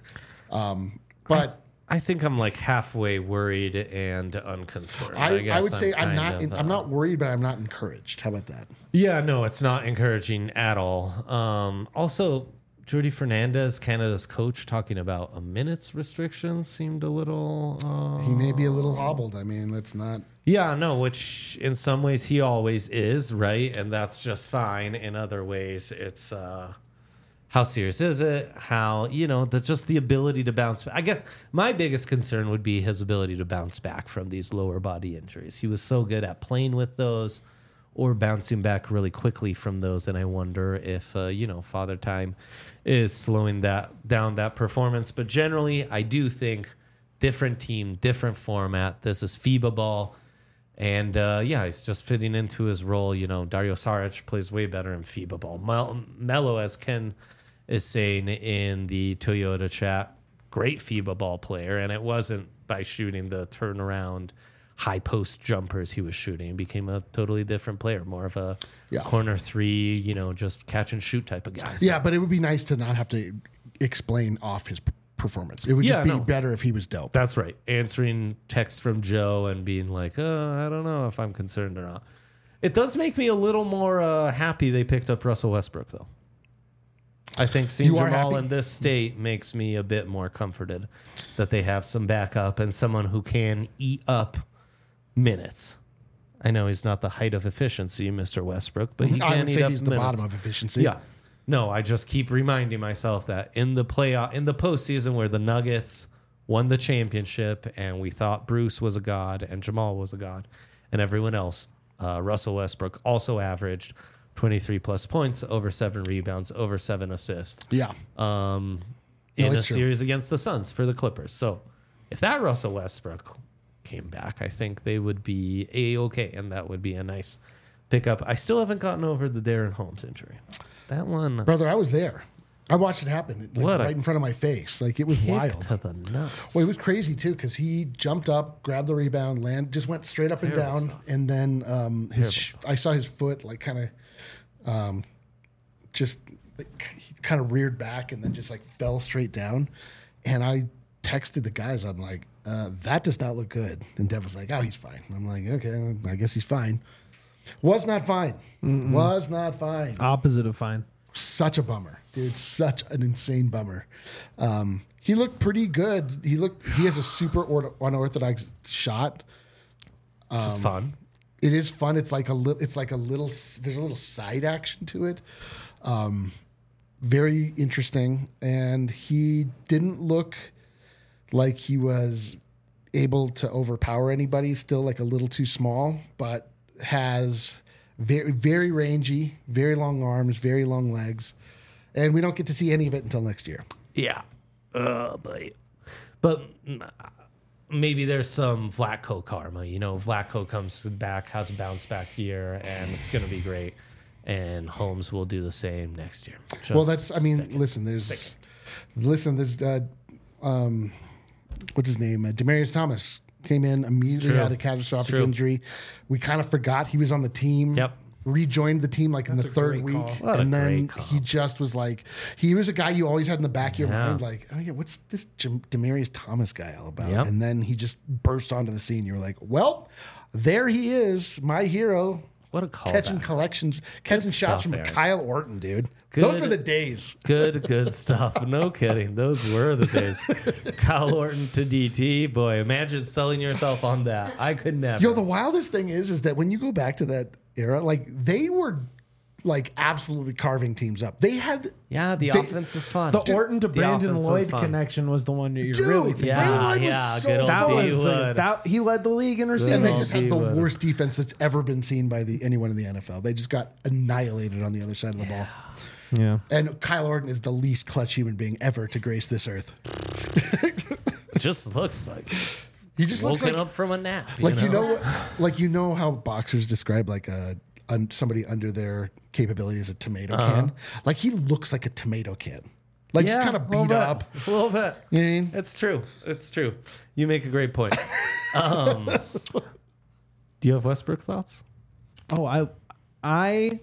But I think I'm like halfway worried and unconcerned. I guess would say I'm kind of, I'm not worried, but I'm not encouraged. How about that? Yeah, no, it's not encouraging at all. Also, Jordi Fernandez, Canada's coach, talking about a minutes restriction seemed a little. He may be a little hobbled. I mean, let's not. Yeah, no, which in some ways he always is, right? And that's just fine. In other ways, it's how serious is it? How, just the ability to bounce back. I guess my biggest concern would be his ability to bounce back from these lower body injuries. He was so good at playing with those or bouncing back really quickly from those. And I wonder if, Father Time is slowing down that performance. But generally, I do think different team, different format. This is FIBA ball. And, he's just fitting into his role. Dario Saric plays way better in FIBA ball. Melo, as Ken is saying in the Toyota chat, great FIBA ball player. And it wasn't by shooting the turnaround high post jumpers he was shooting. He became a totally different player, more of a corner 3, just catch and shoot type of guy. So, Yeah, but it would be nice to not have to explain off his performance. It would just be better if he was dope. That's right. Answering texts from Joe and being like, I don't know if I'm concerned or not. It does make me a little more happy they picked up Russell Westbrook, though. I think seeing You are Jamal happy? in this state makes me a bit more comforted that they have some backup and someone who can eat up minutes. I know he's not the height of efficiency, Mr. Westbrook, but he I can would eat say up he's the minutes. bottom of efficiency. Yeah. No, I just keep reminding myself that in the postseason where the Nuggets won the championship and we thought Bruce was a god and Jamal was a god and everyone else, Russell Westbrook also averaged 23 plus points, over 7 rebounds, over 7 assists. Yeah. In a it's true. series against the Suns for the Clippers. So if that Russell Westbrook came back, I think they would be A-okay, and that would be a nice pickup. I still haven't gotten over the Darren Holmes injury. That one Brother, I was there. I watched it happen right in front of my face. Like, it was kick wild. to the nuts. Well, it was crazy too because he jumped up, grabbed the rebound, just went straight up Terrible and down, stuff. and then I saw his foot like kind of just like, he kind of reared back and then just like fell straight down. And I texted the guys. I'm like, that does not look good. And Dev was like, oh, he's fine. I'm like, okay, I guess he's fine. Was not fine. Was not fine. Opposite of fine. Such a bummer, dude. Such an insane bummer. He looked pretty good. He has a super unorthodox shot. Which is fun. It is fun. It's like a little. There's a little side action to it. Very interesting, and he didn't look like he was able to overpower anybody. Still, like a little too small, but has very, very rangy, very long arms, very long legs, and we don't get to see any of it until next year. Yeah. But maybe there's some Vlatko karma. You know, Vlatko comes back, has a bounce back year, and it's going to be great. And Holmes will do the same next year. Listen, there's what's his name? Demarius Thomas came in immediately, had a catastrophic injury. We kind of forgot he was on the team. Yep. Rejoined the team like in the third week, and then he just was like, he was a guy you always had in the back of your mind, like, oh yeah, what's this Demarius Thomas guy all about? Yep. And then he just burst onto the scene. You were like, well, there he is, my hero. What a call! Catching shots from Aaron. Kyle Orton, dude. Good. Those were the days. Good stuff. No kidding. Those were the days. Kyle Orton to DT. Boy, imagine selling yourself on that. I could never. Yo, the wildest thing is that when you go back to that era, like they were like absolutely carving teams up. They had the offense was fun. The Orton to Brandon offense was Lloyd fun. connection was the one that you're Dude, really thinking. Brandon Lloyd was Yeah, so good old That fun. was Wood. he led the league in receiving. And they Oh, just had the D-Wood. worst defense that's ever been seen by anyone in the NFL. They just got annihilated on the other side of the ball. Yeah. And Kyle Orton is the least clutch human being ever to grace this earth. Just looks like he's He just looks woken like up from a nap. you know how boxers describe like somebody under their capability as a tomato can. Like he looks like a tomato can. Like just kind of beat up. A little bit. You know what I mean? It's true. It's true. You make a great point. Do you have Westbrook thoughts? Oh, I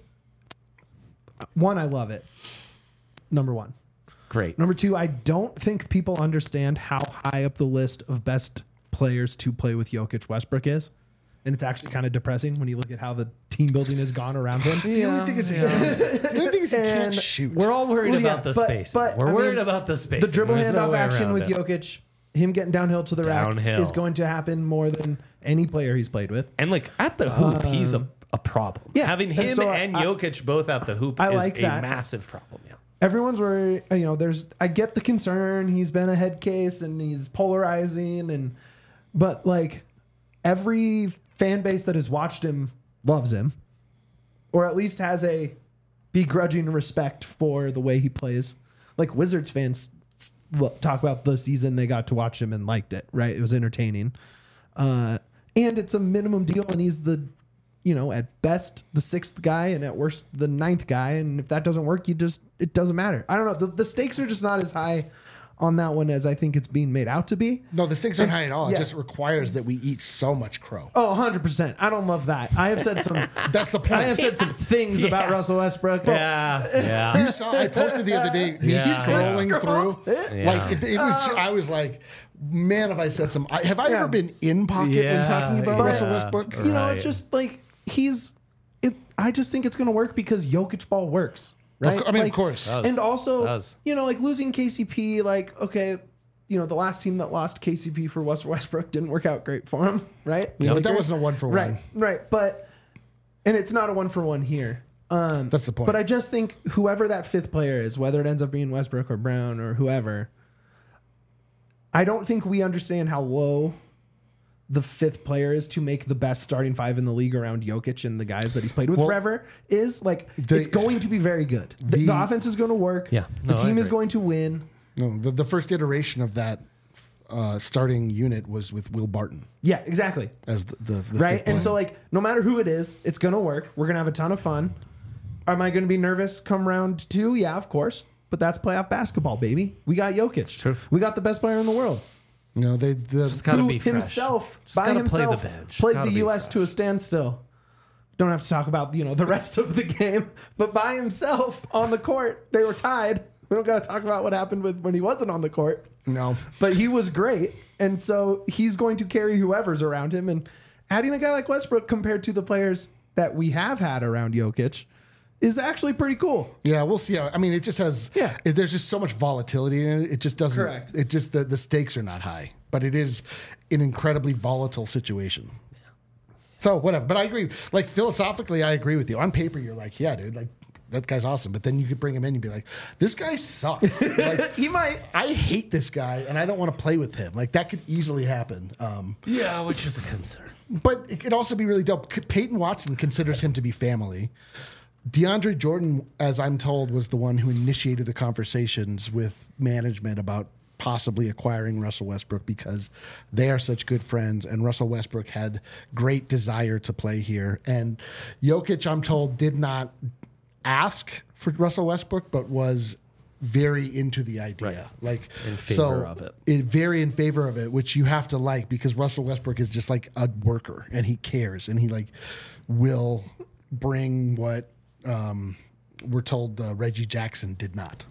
love it. Number one. Great. Number two, I don't think people understand how high up the list of best players to play with Jokic Westbrook is. And it's actually kind of depressing when you look at how the team building has gone around him. The only thing is he can't shoot. We're all worried Well, yeah, about the but- space. but, We're I worried mean, about the space. The dribble There's no handoff way action around with it. Jokic, him getting downhill to the rack Downhill. is going to happen more than any player he's played with. And like at the hoop, he's a problem. yeah, Having and him so and Jokic both at the hoop I is like a that. massive problem. Yeah. Everyone's worried, I get the concern. He's been a head case and he's polarizing but like every fan base that has watched him loves him, or at least has a begrudging respect for the way he plays. Like Wizards fans talk about the season they got to watch him and liked it, right? It was entertaining. And it's a minimum deal, and he's the, at best the sixth guy and at worst the ninth guy. And if that doesn't work, it doesn't matter. I don't know. The stakes are just not as high on that one as I think it's being made out to be. No, the stakes aren't high at all. Yeah. It just requires that we eat so much crow. Oh, 100%. I don't love that. I have said some. That's the point. I have said some things about Russell Westbrook. Yeah. You saw I posted the other day me Yeah. scrolling through. Yeah. Like it was. I was like, man, have I said some? Have I ever been in pocket when talking about Yeah. Russell Westbrook? You know, it's just like I just think it's going to work because Jokic ball works. Right? Of course. Does. And also, Does. like losing KCP, like, okay, the last team that lost KCP for Westbrook didn't work out great for him, right? Yeah, but that wasn't a 1-for-1. Right. But, and it's not a 1-for-1 here. That's the point. But I just think whoever that fifth player is, whether it ends up being Westbrook or Brown or whoever, I don't think we understand how low the fifth player is to make the best starting five in the league around Jokic and the guys that he's played with forever is like, it's going to be very good. The offense is going to work. Yeah. The No, I team is agree. going to win. No, the first iteration of that starting unit was with Will Barton Yeah, exactly. as the Right. fifth And player. so like, no matter who it is, it's going to work. We're going to have a ton of fun. Am I going to be nervous come round two? Yeah, of course. But that's playoff basketball, baby. We got Jokic. It's true. We got the best player in the world. Just gotta Who be fresh. himself, Just by gotta play the himself, bench. played Gotta the be U.S. fresh. to a standstill. Don't have to talk about the rest of the game, but by himself on the court, they were tied. We don't got to talk about what happened when he wasn't on the court. No. But he was great, and so he's going to carry whoever's around him. And adding a guy like Westbrook compared to the players that we have had around Jokic is actually pretty cool. Yeah, we'll see. I mean, it just has. Yeah. There's just so much volatility in it. It just doesn't. Correct. It just the stakes are not high, but it is an incredibly volatile situation. So whatever. But I agree. Like philosophically, I agree with you. On paper, you're like, yeah, dude, like that guy's awesome. But then you could bring him in and be like, this guy sucks. Like, He might. I hate this guy, and I don't want to play with him. Like that could easily happen. Yeah, which is a concern. But it could also be really dope. Peyton Watson considers him to be family. DeAndre Jordan, as I'm told, was the one who initiated the conversations with management about possibly acquiring Russell Westbrook because they are such good friends, and Russell Westbrook had great desire to play here. And Jokic, I'm told, did not ask for Russell Westbrook, but was very into the idea, like In favor of it. Very in favor of it, which you have to like because Russell Westbrook is just like a worker and he cares and he like will bring what we're told Reggie Jackson did not.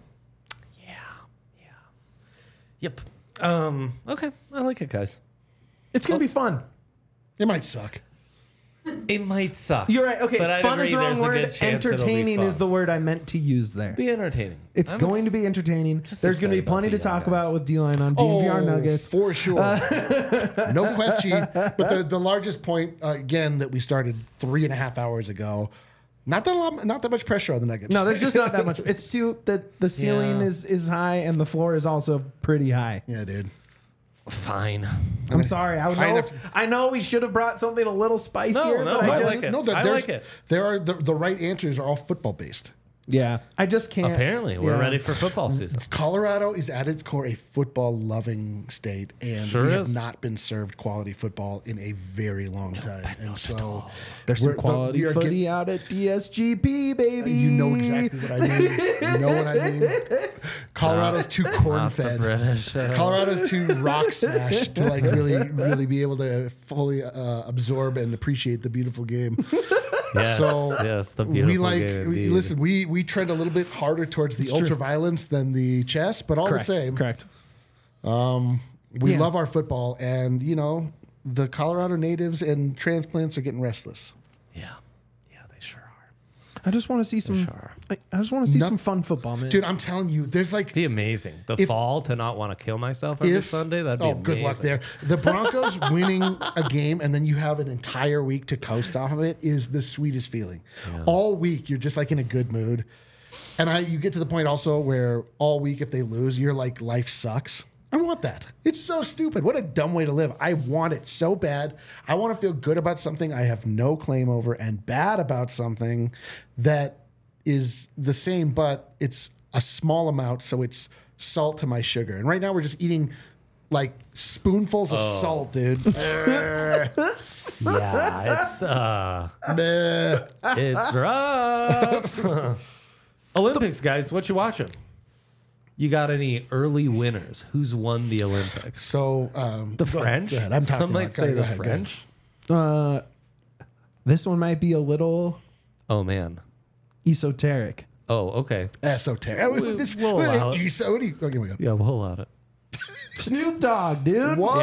Yep. Okay, I like it, guys. It's gonna be fun. It might suck. It might suck. You're right. Okay, but I'd fun is agree the wrong there's a word. good chance it'll be Entertaining fun. is the word I meant to use there. Be entertaining. It's I'm going to be entertaining. just There's going to be excited about plenty the to young talk guys. about with D-Line on DNVR Nuggets. For sure. No question. But the largest point, again, that we started 3.5 hours ago, not that much pressure on the Nuggets. No, there's just not that much. It's too the ceiling Yeah. is high and the floor is also pretty high. Yeah, dude. Fine. I'm sorry. High enough I know we should have brought something a little spicier. No, but I I like just, it. No, I there's- like it. There are the right answers are all football based. Yeah, I just can't. Apparently, we're yeah. ready for football season. Colorado is at its core a football loving state, and Sure we is. have not been served quality football in a very long time. And so There's some we quality are footy out at DSGP, baby. You know exactly what I mean. You know what I mean. Colorado's too corn Not the fed. British. Colorado's too rock smashed to like really be able to fully absorb and appreciate the beautiful game. Yes, So yes, the beautiful we like game. we, indeed. listen. We trend a little bit harder towards the ultra violence than the chess, but all Correct. the same, Correct. we Yeah. love our football, and you know the Colorado natives and transplants are getting restless. Yeah, they sure are. I just want to see some. Sure. I just want to see No- some fun football, man. Dude, I'm telling you, there's like Be amazing. The If- fall to not want to kill myself every Sunday. That'd be amazing. good luck there. The Broncos winning a game and then you have an entire week to coast off of it is the sweetest feeling. All week you're just like in a good mood, and you get to the point also where all week if they lose you're like life sucks. I want that. It's so stupid. What a dumb way to live. I want it so bad. I want to feel good about something I have no claim over and bad about something that is the same, but it's a small amount, so it's salt to my sugar. And right now we're just eating like spoonfuls of salt, dude. Yeah, it's rough. Olympics, guys, what you watching? You got any early winners? Who's won the Olympics? So The French? Go ahead. I'm talking Some might about- say go the ahead, go ahead. French. This one might be a little Oh man. esoteric. Oh, okay. Esoteric. We'll allow it. Okay, we go. Yeah, we'll allow it. Snoop Dogg, dude. Whoa.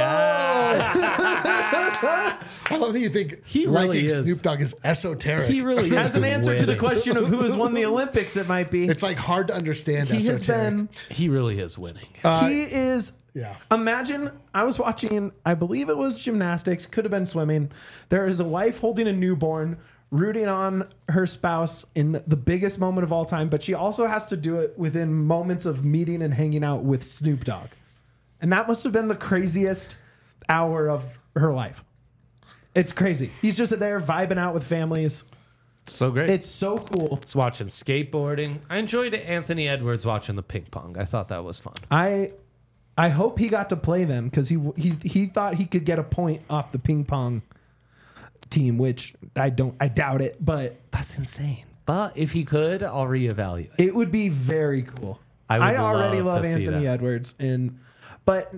Yeah, I love that you think He really liking is. Snoop Dogg is esoteric. he really is. As an answer to the winning. question of who has won the Olympics, it might be. It's like hard to understand He has esoteric. been. He really is winning. He is. Yeah. Imagine I was watching, I believe it was gymnastics, could have been swimming. There is a wife holding a newborn, rooting on her spouse in the biggest moment of all time, but she also has to do it within moments of meeting and hanging out with Snoop Dogg. And that must have been the craziest hour of her life. It's crazy. He's just there vibing out with families. So great. It's so cool. It's watching skateboarding. I enjoyed Anthony Edwards watching the ping pong. I thought that was fun. I hope he got to play them because he thought he could get a point off the ping pong team, which I doubt it, but That's insane. But if he could, I'll reevaluate. it would be very cool. I would already love love to see Anthony that. Edwards, but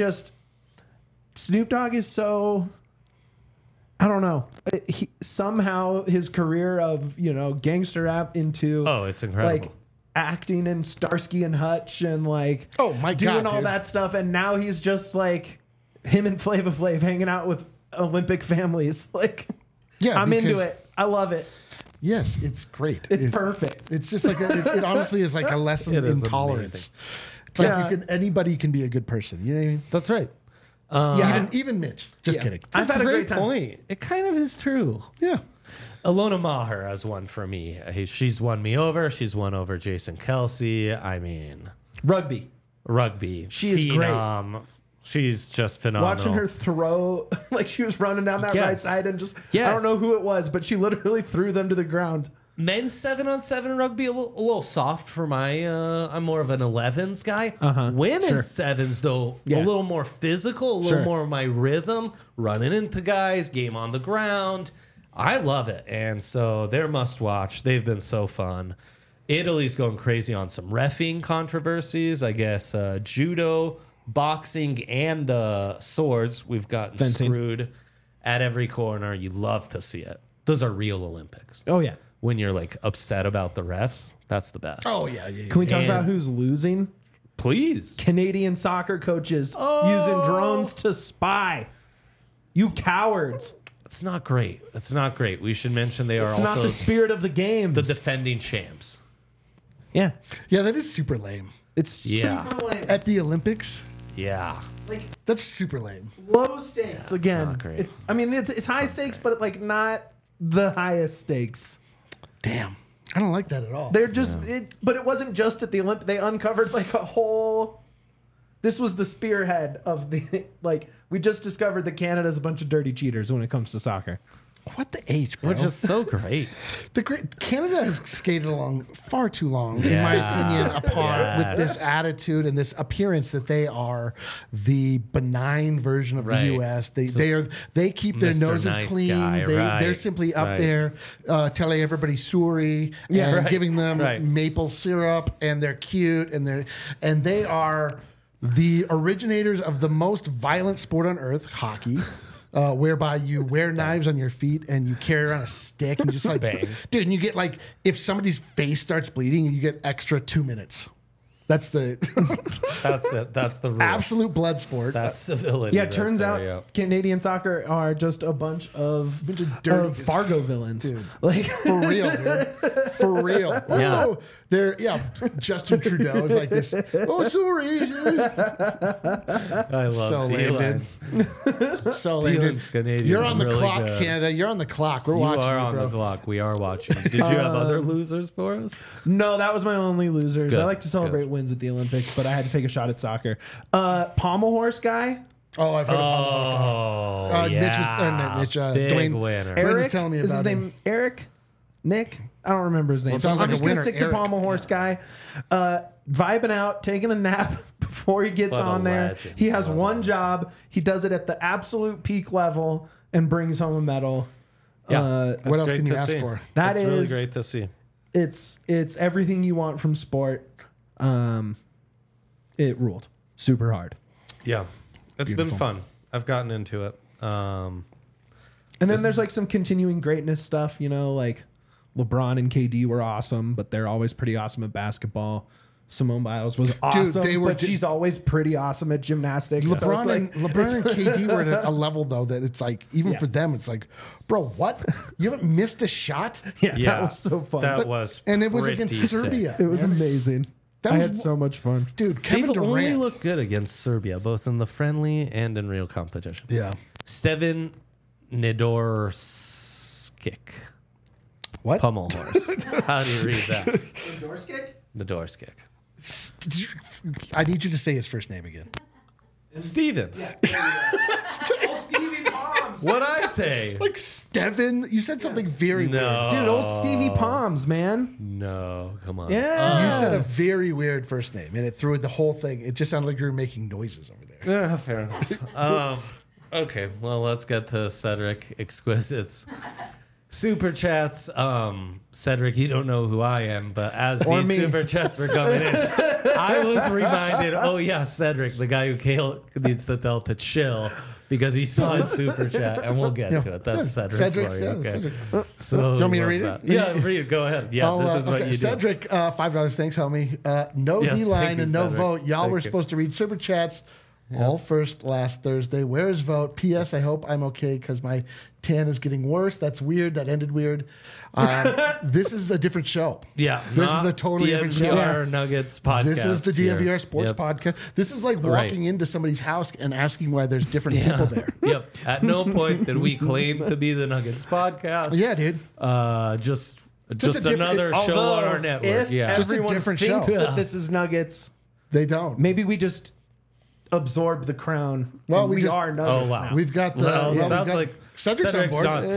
Snoop Dogg is so, I don't know. Somehow his career of gangster rap into It's incredible. like acting in Starsky and Hutch and like Oh, my doing God, all dude. that stuff, and now he's just like him and Flava Flav hanging out with Olympic families. Like, Yeah, I'm into because- it. I love it. Yes, it's great. It's perfect. It's just like it honestly is like a lesson It in is tolerance. amazing. It's like Yeah. anybody can be a good person. You know what I mean? That's right. Even Mitch. Just kidding. I've had a great time. point. It kind of is true. Yeah. Alona Maher has one for me. She's won me over. She's won over Jason Kelsey. I mean, Rugby. rugby. She is phenom. She's just phenomenal. Watching her throw, like she was running down that Yes. right side and just, I Yes. don't know who it was, but she literally threw them to the ground. Men's 7-on-7 rugby a little soft for my. I'm more of an 11s guy. Women's sevens though Yeah. a little more physical, a little more of my rhythm, running into guys, game on the ground. I love it, and so they're must watch. They've been so fun. Italy's going crazy on some reffing controversies. I guess judo, boxing, and swords. We've gotten Fencing. screwed at every corner. You love to see it. Those are real Olympics. Oh, yeah. When you're like upset about the refs, that's the best. Oh yeah. Yeah. Can we talk And- about who's losing? Please. Canadian soccer coaches using drones to spy. You cowards. It's not great. It's not great. We should mention they are It's not also the spirit of the games. the defending champs. yeah. Yeah, that is super lame. It's Yeah. super lame. At the Olympics, Yeah. Like that's super lame. low stakes again. not great. It's high stakes, but like not the highest stakes. Damn. I don't like that at all. They're just but it wasn't just at the Olympics. They uncovered like a whole. This was the spearhead of the like. We just discovered that Canada's a bunch of dirty cheaters when it comes to soccer. What the H, bro? Which is so great. Canada has skated along far too long, in my opinion, apart with this attitude and this appearance that they are the benign version of Right. the U.S. They keep their Mr. Noses Nice clean. Guy, They're right, simply up right. there telling everybody sorry and right, giving them right. maple syrup, and they're cute and they are the originators of the most violent sport on earth, hockey. Whereby you wear knives on your feet and you carry around a stick and just like Bang. dude, and you get like if somebody's face starts bleeding, you get extra 2 minutes. That's the That's it. That's the rule. absolute blood sport. That's civility. Yeah, right it turns there, out yeah. Canadian soccer are just a bunch of dirty- Fargo villains. Dude. Like For real, dude. For real. Yeah. Oh, they're Justin Trudeau is like this. Oh, sorry. I love So lame, Thielens. So lame, dude. Thielens Canadians You're on the really clock, good. Canada. You're on the clock. We're You watching. are you, on bro. the clock. We are watching. Did you have other losers for us? no, that was my only losers. Good, I like to celebrate good. wins at the Olympics, but I had to take a shot at soccer. Pommel horse guy, Oh, I've heard of Oh, Mitch was- not Mitch, Big Dwayne- winner. Eric- Eric. telling me is his about him. name Eric? Nick? I don't remember his name. Well, sounds I'm like just a gonna winner, stick to Eric. Pommel horse guy. Vibing out, taking a nap before he gets What a on there. legend. He has What a one legend. job. He does it at the absolute peak level and brings home a medal. Yeah. That's What else great can you to ask see. for? That That's really is- great to see. It's everything you want from sport. It ruled super hard. Yeah. It's Beautiful. been fun. I've gotten into it. And then there's like some continuing greatness stuff, you know, like LeBron and KD were awesome, but they're always pretty awesome at basketball. Simone Biles was awesome, they were but she's always pretty awesome at gymnastics. So LeBron, it's like- LeBron and KD were at a level though that it's like even Yeah. for them it's like, bro, what? You haven't missed a shot? yeah, Yeah. that was so fun. That was And it was against pretty sick. Serbia. it was man. amazing. That I was had so much fun. Dude, Kevin They've only Durant. looked good against Serbia, both in the friendly and in real competition. Yeah. Steven Nadorskic. What? Pummel horse. How do you read that? Nadorskic. Did you, I need you to say his first name again. Steven. Stevie Palms. What'd I say? Like Steven, you said something very No. Dude, old Stevie Palms, man. No, come on. Yeah. weird. You said a very weird first name, and it threw the whole thing. It just sounded like you were making noises over there. Fair enough. Okay, well, let's get to Cedric Exquisite's super chats. Cedric, you don't know who I am, but as Or these me. super chats were coming in, I was reminded, oh, yeah, Cedric, the guy who Kale needs to tell to chill because he saw his super chat, and we'll get to it. That's Cedric. Cedric's- for you, yeah, okay. Cedric. So You want me to what's read it? that? Yeah, read it. Go ahead. Yeah, this is what okay. you do. Cedric, $5. Thanks, homie. No Yes, D-line thank you, and no Cedric. vote. Y'all Thank were you. supposed to read super chats All first last Thursday. Where is vote? P.S. I hope I'm okay because my tan is getting worse. That's weird. That ended weird. This is a different show. Yeah. This is a totally different show. DNVR Nuggets podcast. This is the DNVR here. Sports Yep. Podcast. This is like walking into somebody's house and asking why there's different people there. Yep. At no point did we claim to be the Nuggets podcast. Yeah, dude. Just a different- another show Although, on our network. If Yeah. Just a everyone different thinks show. that this is Nuggets, They don't. maybe we just absorb the crown. Well, and we we just- are Nuggets Oh, wow. now. We've got the. Well, we've it sounds got- like Cedric's on board. not too.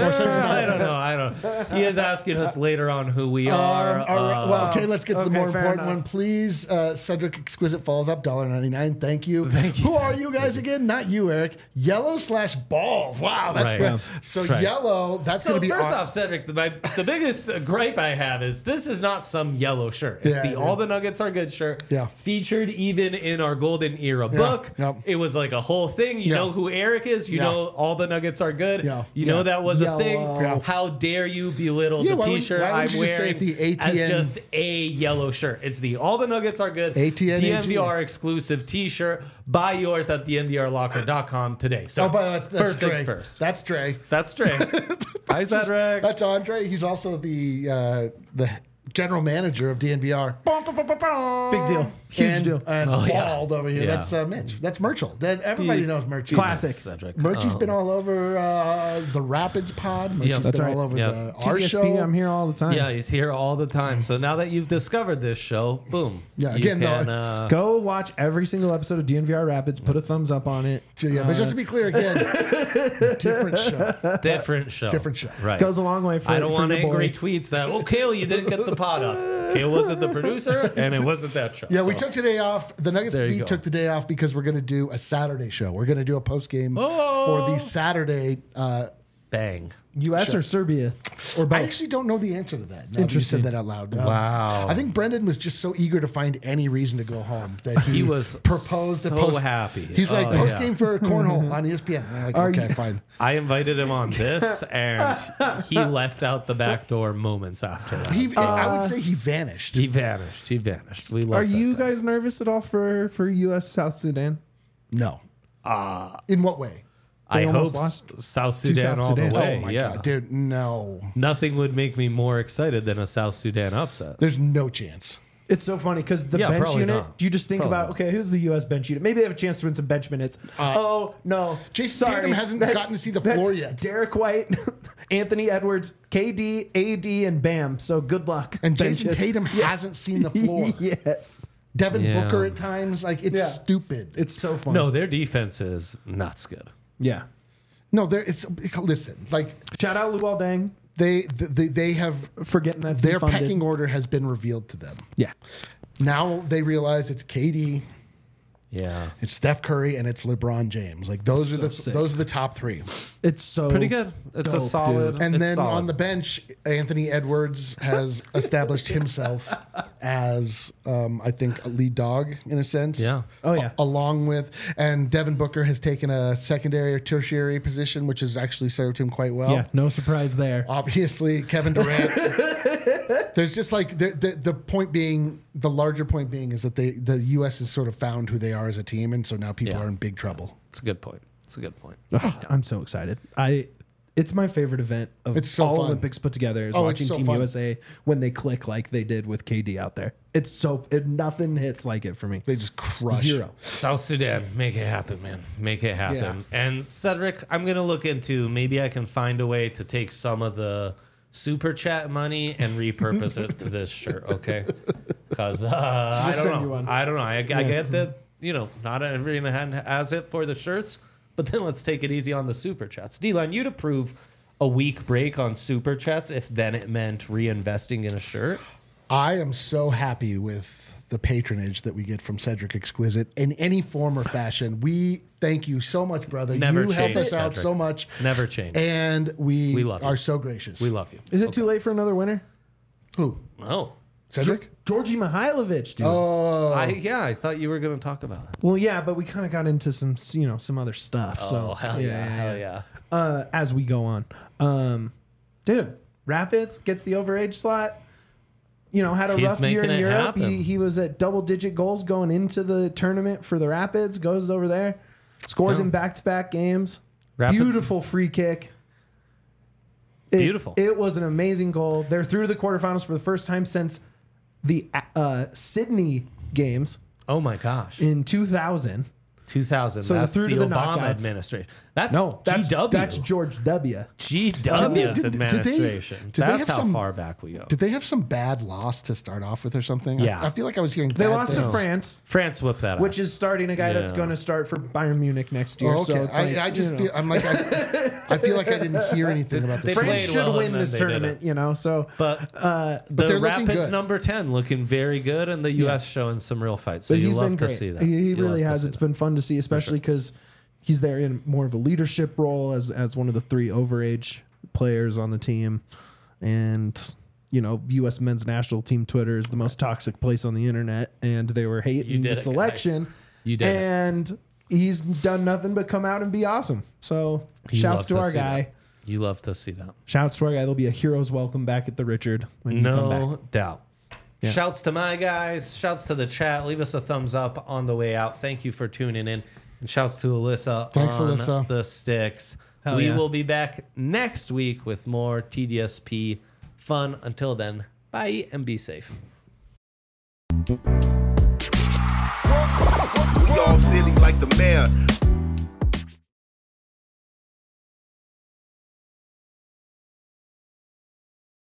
I don't know. I don't. He is asking us later on who we are. All right, well, okay, let's get to the okay, more fair important enough. one, please. Cedric Exquisite follows up, $1.99. Thank you. Thank you, Who Cedric. are you guys again? Not you, Eric. Yellow/bald. Wow, that's Right. great. Yeah. So Right. yellow. That's So going to be first on- off, Cedric, the biggest gripe I have is this is not some yellow shirt. It's Yeah, the yeah. All the Nuggets Are Good shirt. Yeah. Featured even in our Golden Era book. Yep. It was like a whole thing. You Yeah. know who Eric is. You Yeah. know All the Nuggets Are Good. Yeah. You know that was a Yellow. thing. Yeah. How dare you belittle Yeah, the why would- T-shirt why would I'm you just say wearing the ATN as just a yellow shirt? It's the All the Nuggets Are Good ATN DNVR exclusive T-shirt. Buy yours at DNVRlocker.com today. So Oh, but that's first Dre. things first. That's Dre. That's Dre. Hi, Cedric. That's Andre. He's also the general manager of DNVR. Big deal. Huge deal. And Oh, yeah. bald over here. Yeah. That's Mitch. That's Murchel. Everybody knows Murchie. Classic. Cedric. Murchie's been all over the Rapids pod. Murchie's Yep. been That's all right. over Yep. our TSP, show. I'm here all the time. Yeah, he's here all the time. So now that you've discovered this show, boom. Yeah, you again, can, Go watch every single episode of DNVR Rapids. Put a thumbs up on it. Yeah, but just to be clear again, different show. different show. Different show. Right. Goes a long way for I don't for want your angry boy. tweets that, oh, Kale, you didn't get the pod up. Kale wasn't the producer, and it wasn't that show. Yeah, we So, took today off. The Nuggets There you beat go. took the day off because we're going to do a Saturday show. We're going to do a post game Oh. for the Saturday. bang. U.S. or Serbia or I both. actually don't know the answer to that. Now that you Interesting. said that out loud. Wow. I think Brendan was just so eager to find any reason to go home that He was proposed so a post. happy. He's like Oh, post game yeah. for cornhole on ESPN. And I'm like, Are okay, you- fine. I invited him on this, and he left out the back door moments after that. I would say he vanished. He vanished. He vanished. We love Are that you guy. guys nervous at all for U.S. South Sudan? No. In what way? I They hope almost lost South Sudan South all Sudan. the way. Oh my yeah. god, dude, no. Nothing would make me more excited than a South Sudan upset. There's no chance. It's so funny because the Yeah, bench probably unit. not. You just think Probably about not. okay, who's the U.S. bench unit? Maybe they have a chance to win some bench minutes. Oh no, Jason Tatum hasn't gotten to see the that's floor yet. Derek White, Anthony Edwards, KD, AD, and Bam. So good luck. And Jason benches. Tatum Yes. hasn't seen the floor. Yes, Devin Yeah. Booker at times, like it's Yeah. stupid. it's so funny. No, their defense is nuts good. Yeah. No, there. It's listen. Like Shout out Luol Deng they have for getting that their funded. pecking order has been revealed to them. Yeah. Now they realize it's KD, Yeah. it's Steph Curry, and it's LeBron James. Like those are So the sick. those are the top three. It's so Pretty good. It's a dope, solid. dude. And it's then solid. on the bench, Anthony Edwards has established himself as, I think, a lead dog in a sense. Yeah. Oh, yeah. Along with, and Devin Booker has taken a secondary or tertiary position, which has actually served him quite well. Yeah, no surprise there. Obviously, Kevin Durant. There's just like the point being, the larger point being is that the U.S. has sort of found who they are as a team, and so now people Yeah. are in big trouble. It's a good point. It's a good point. Ugh, I'm so excited. It's my favorite event of It's so all fun. Olympics put together is Oh, watching it's so Team fun. USA when they click like they did with KD out there. It's nothing hits like it for me. They just crush. Zero. South Sudan, make it happen, man. Make it happen. Yeah. And Cedric, I'm gonna look into maybe I can find a way to take some of the super chat money and repurpose it to this shirt, okay? Because I send don't you know. one. I don't know. I get that not everyone has it for the shirts, but then let's take it easy on the super chats. D-Line, you'd approve a week break on super chats if then it meant reinvesting in a shirt. I am so happy with the patronage that we get from Cedric Exquisite in any form or fashion. We thank you so much, brother. Never you help change, us out Cedric. so much. Never change. And we love you. are so gracious. We love you. Is it too late for another winner? Who? Oh. Cedric? Georgie Mihailovic, dude. Oh, I thought you were going to talk about it. Well, yeah, but we kind of got into some other stuff. So Oh, hell yeah. Hell yeah. As we go on, dude, Rapids gets the overage slot. had a He's rough year making in it Europe. happen. He was at double-digit goals going into the tournament for the Rapids. Goes over there, scores in back-to-back games. Rapids- Beautiful free kick. Beautiful. It was an amazing goal. They're through the quarterfinals for the first time since the Sydney games Oh my gosh. in 2000. 2000. So That's through the to the Obama knockouts. administration. That's That's GW. That's George W. GW's Did they- administration. did they That's have how some- far back we go. Did they have some bad loss to start off with or something? Yeah. I feel like I was hearing They bad lost to things. France, France whipped that which ass. is starting a guy that's Yeah. going to start for Bayern Munich next year. Oh, okay. So it's like, I just feel I'm like I feel like I didn't hear anything about They this. France played should well win and then this they tournament, So But they're the looking Rapids good. number 10 looking very good, and the U.S. showing some real fights. So but you he's love been to great. see that. He You really love to has. see It's that. been fun to see, especially because he's there in more of a leadership role as one of the 3 overage players on the team, and U.S. men's national team Twitter is the most toxic place on the internet, and they were You hating did the it, guys. selection. You did it. and he's done nothing but come out and be awesome. So You shouts love to our see guy. that. You love to see that. Shouts to our guy. There'll be a hero's welcome back at the Richard when you come back. No doubt. Yeah. Shouts to my guys. Shouts to the chat. Leave us a thumbs up on the way out. Thank you for tuning in. And shouts to Alyssa Thanks, on Alyssa. the sticks. Hell we yeah. will be back next week with more TDSP fun. Until then, bye and be safe. We all silly like the mayor.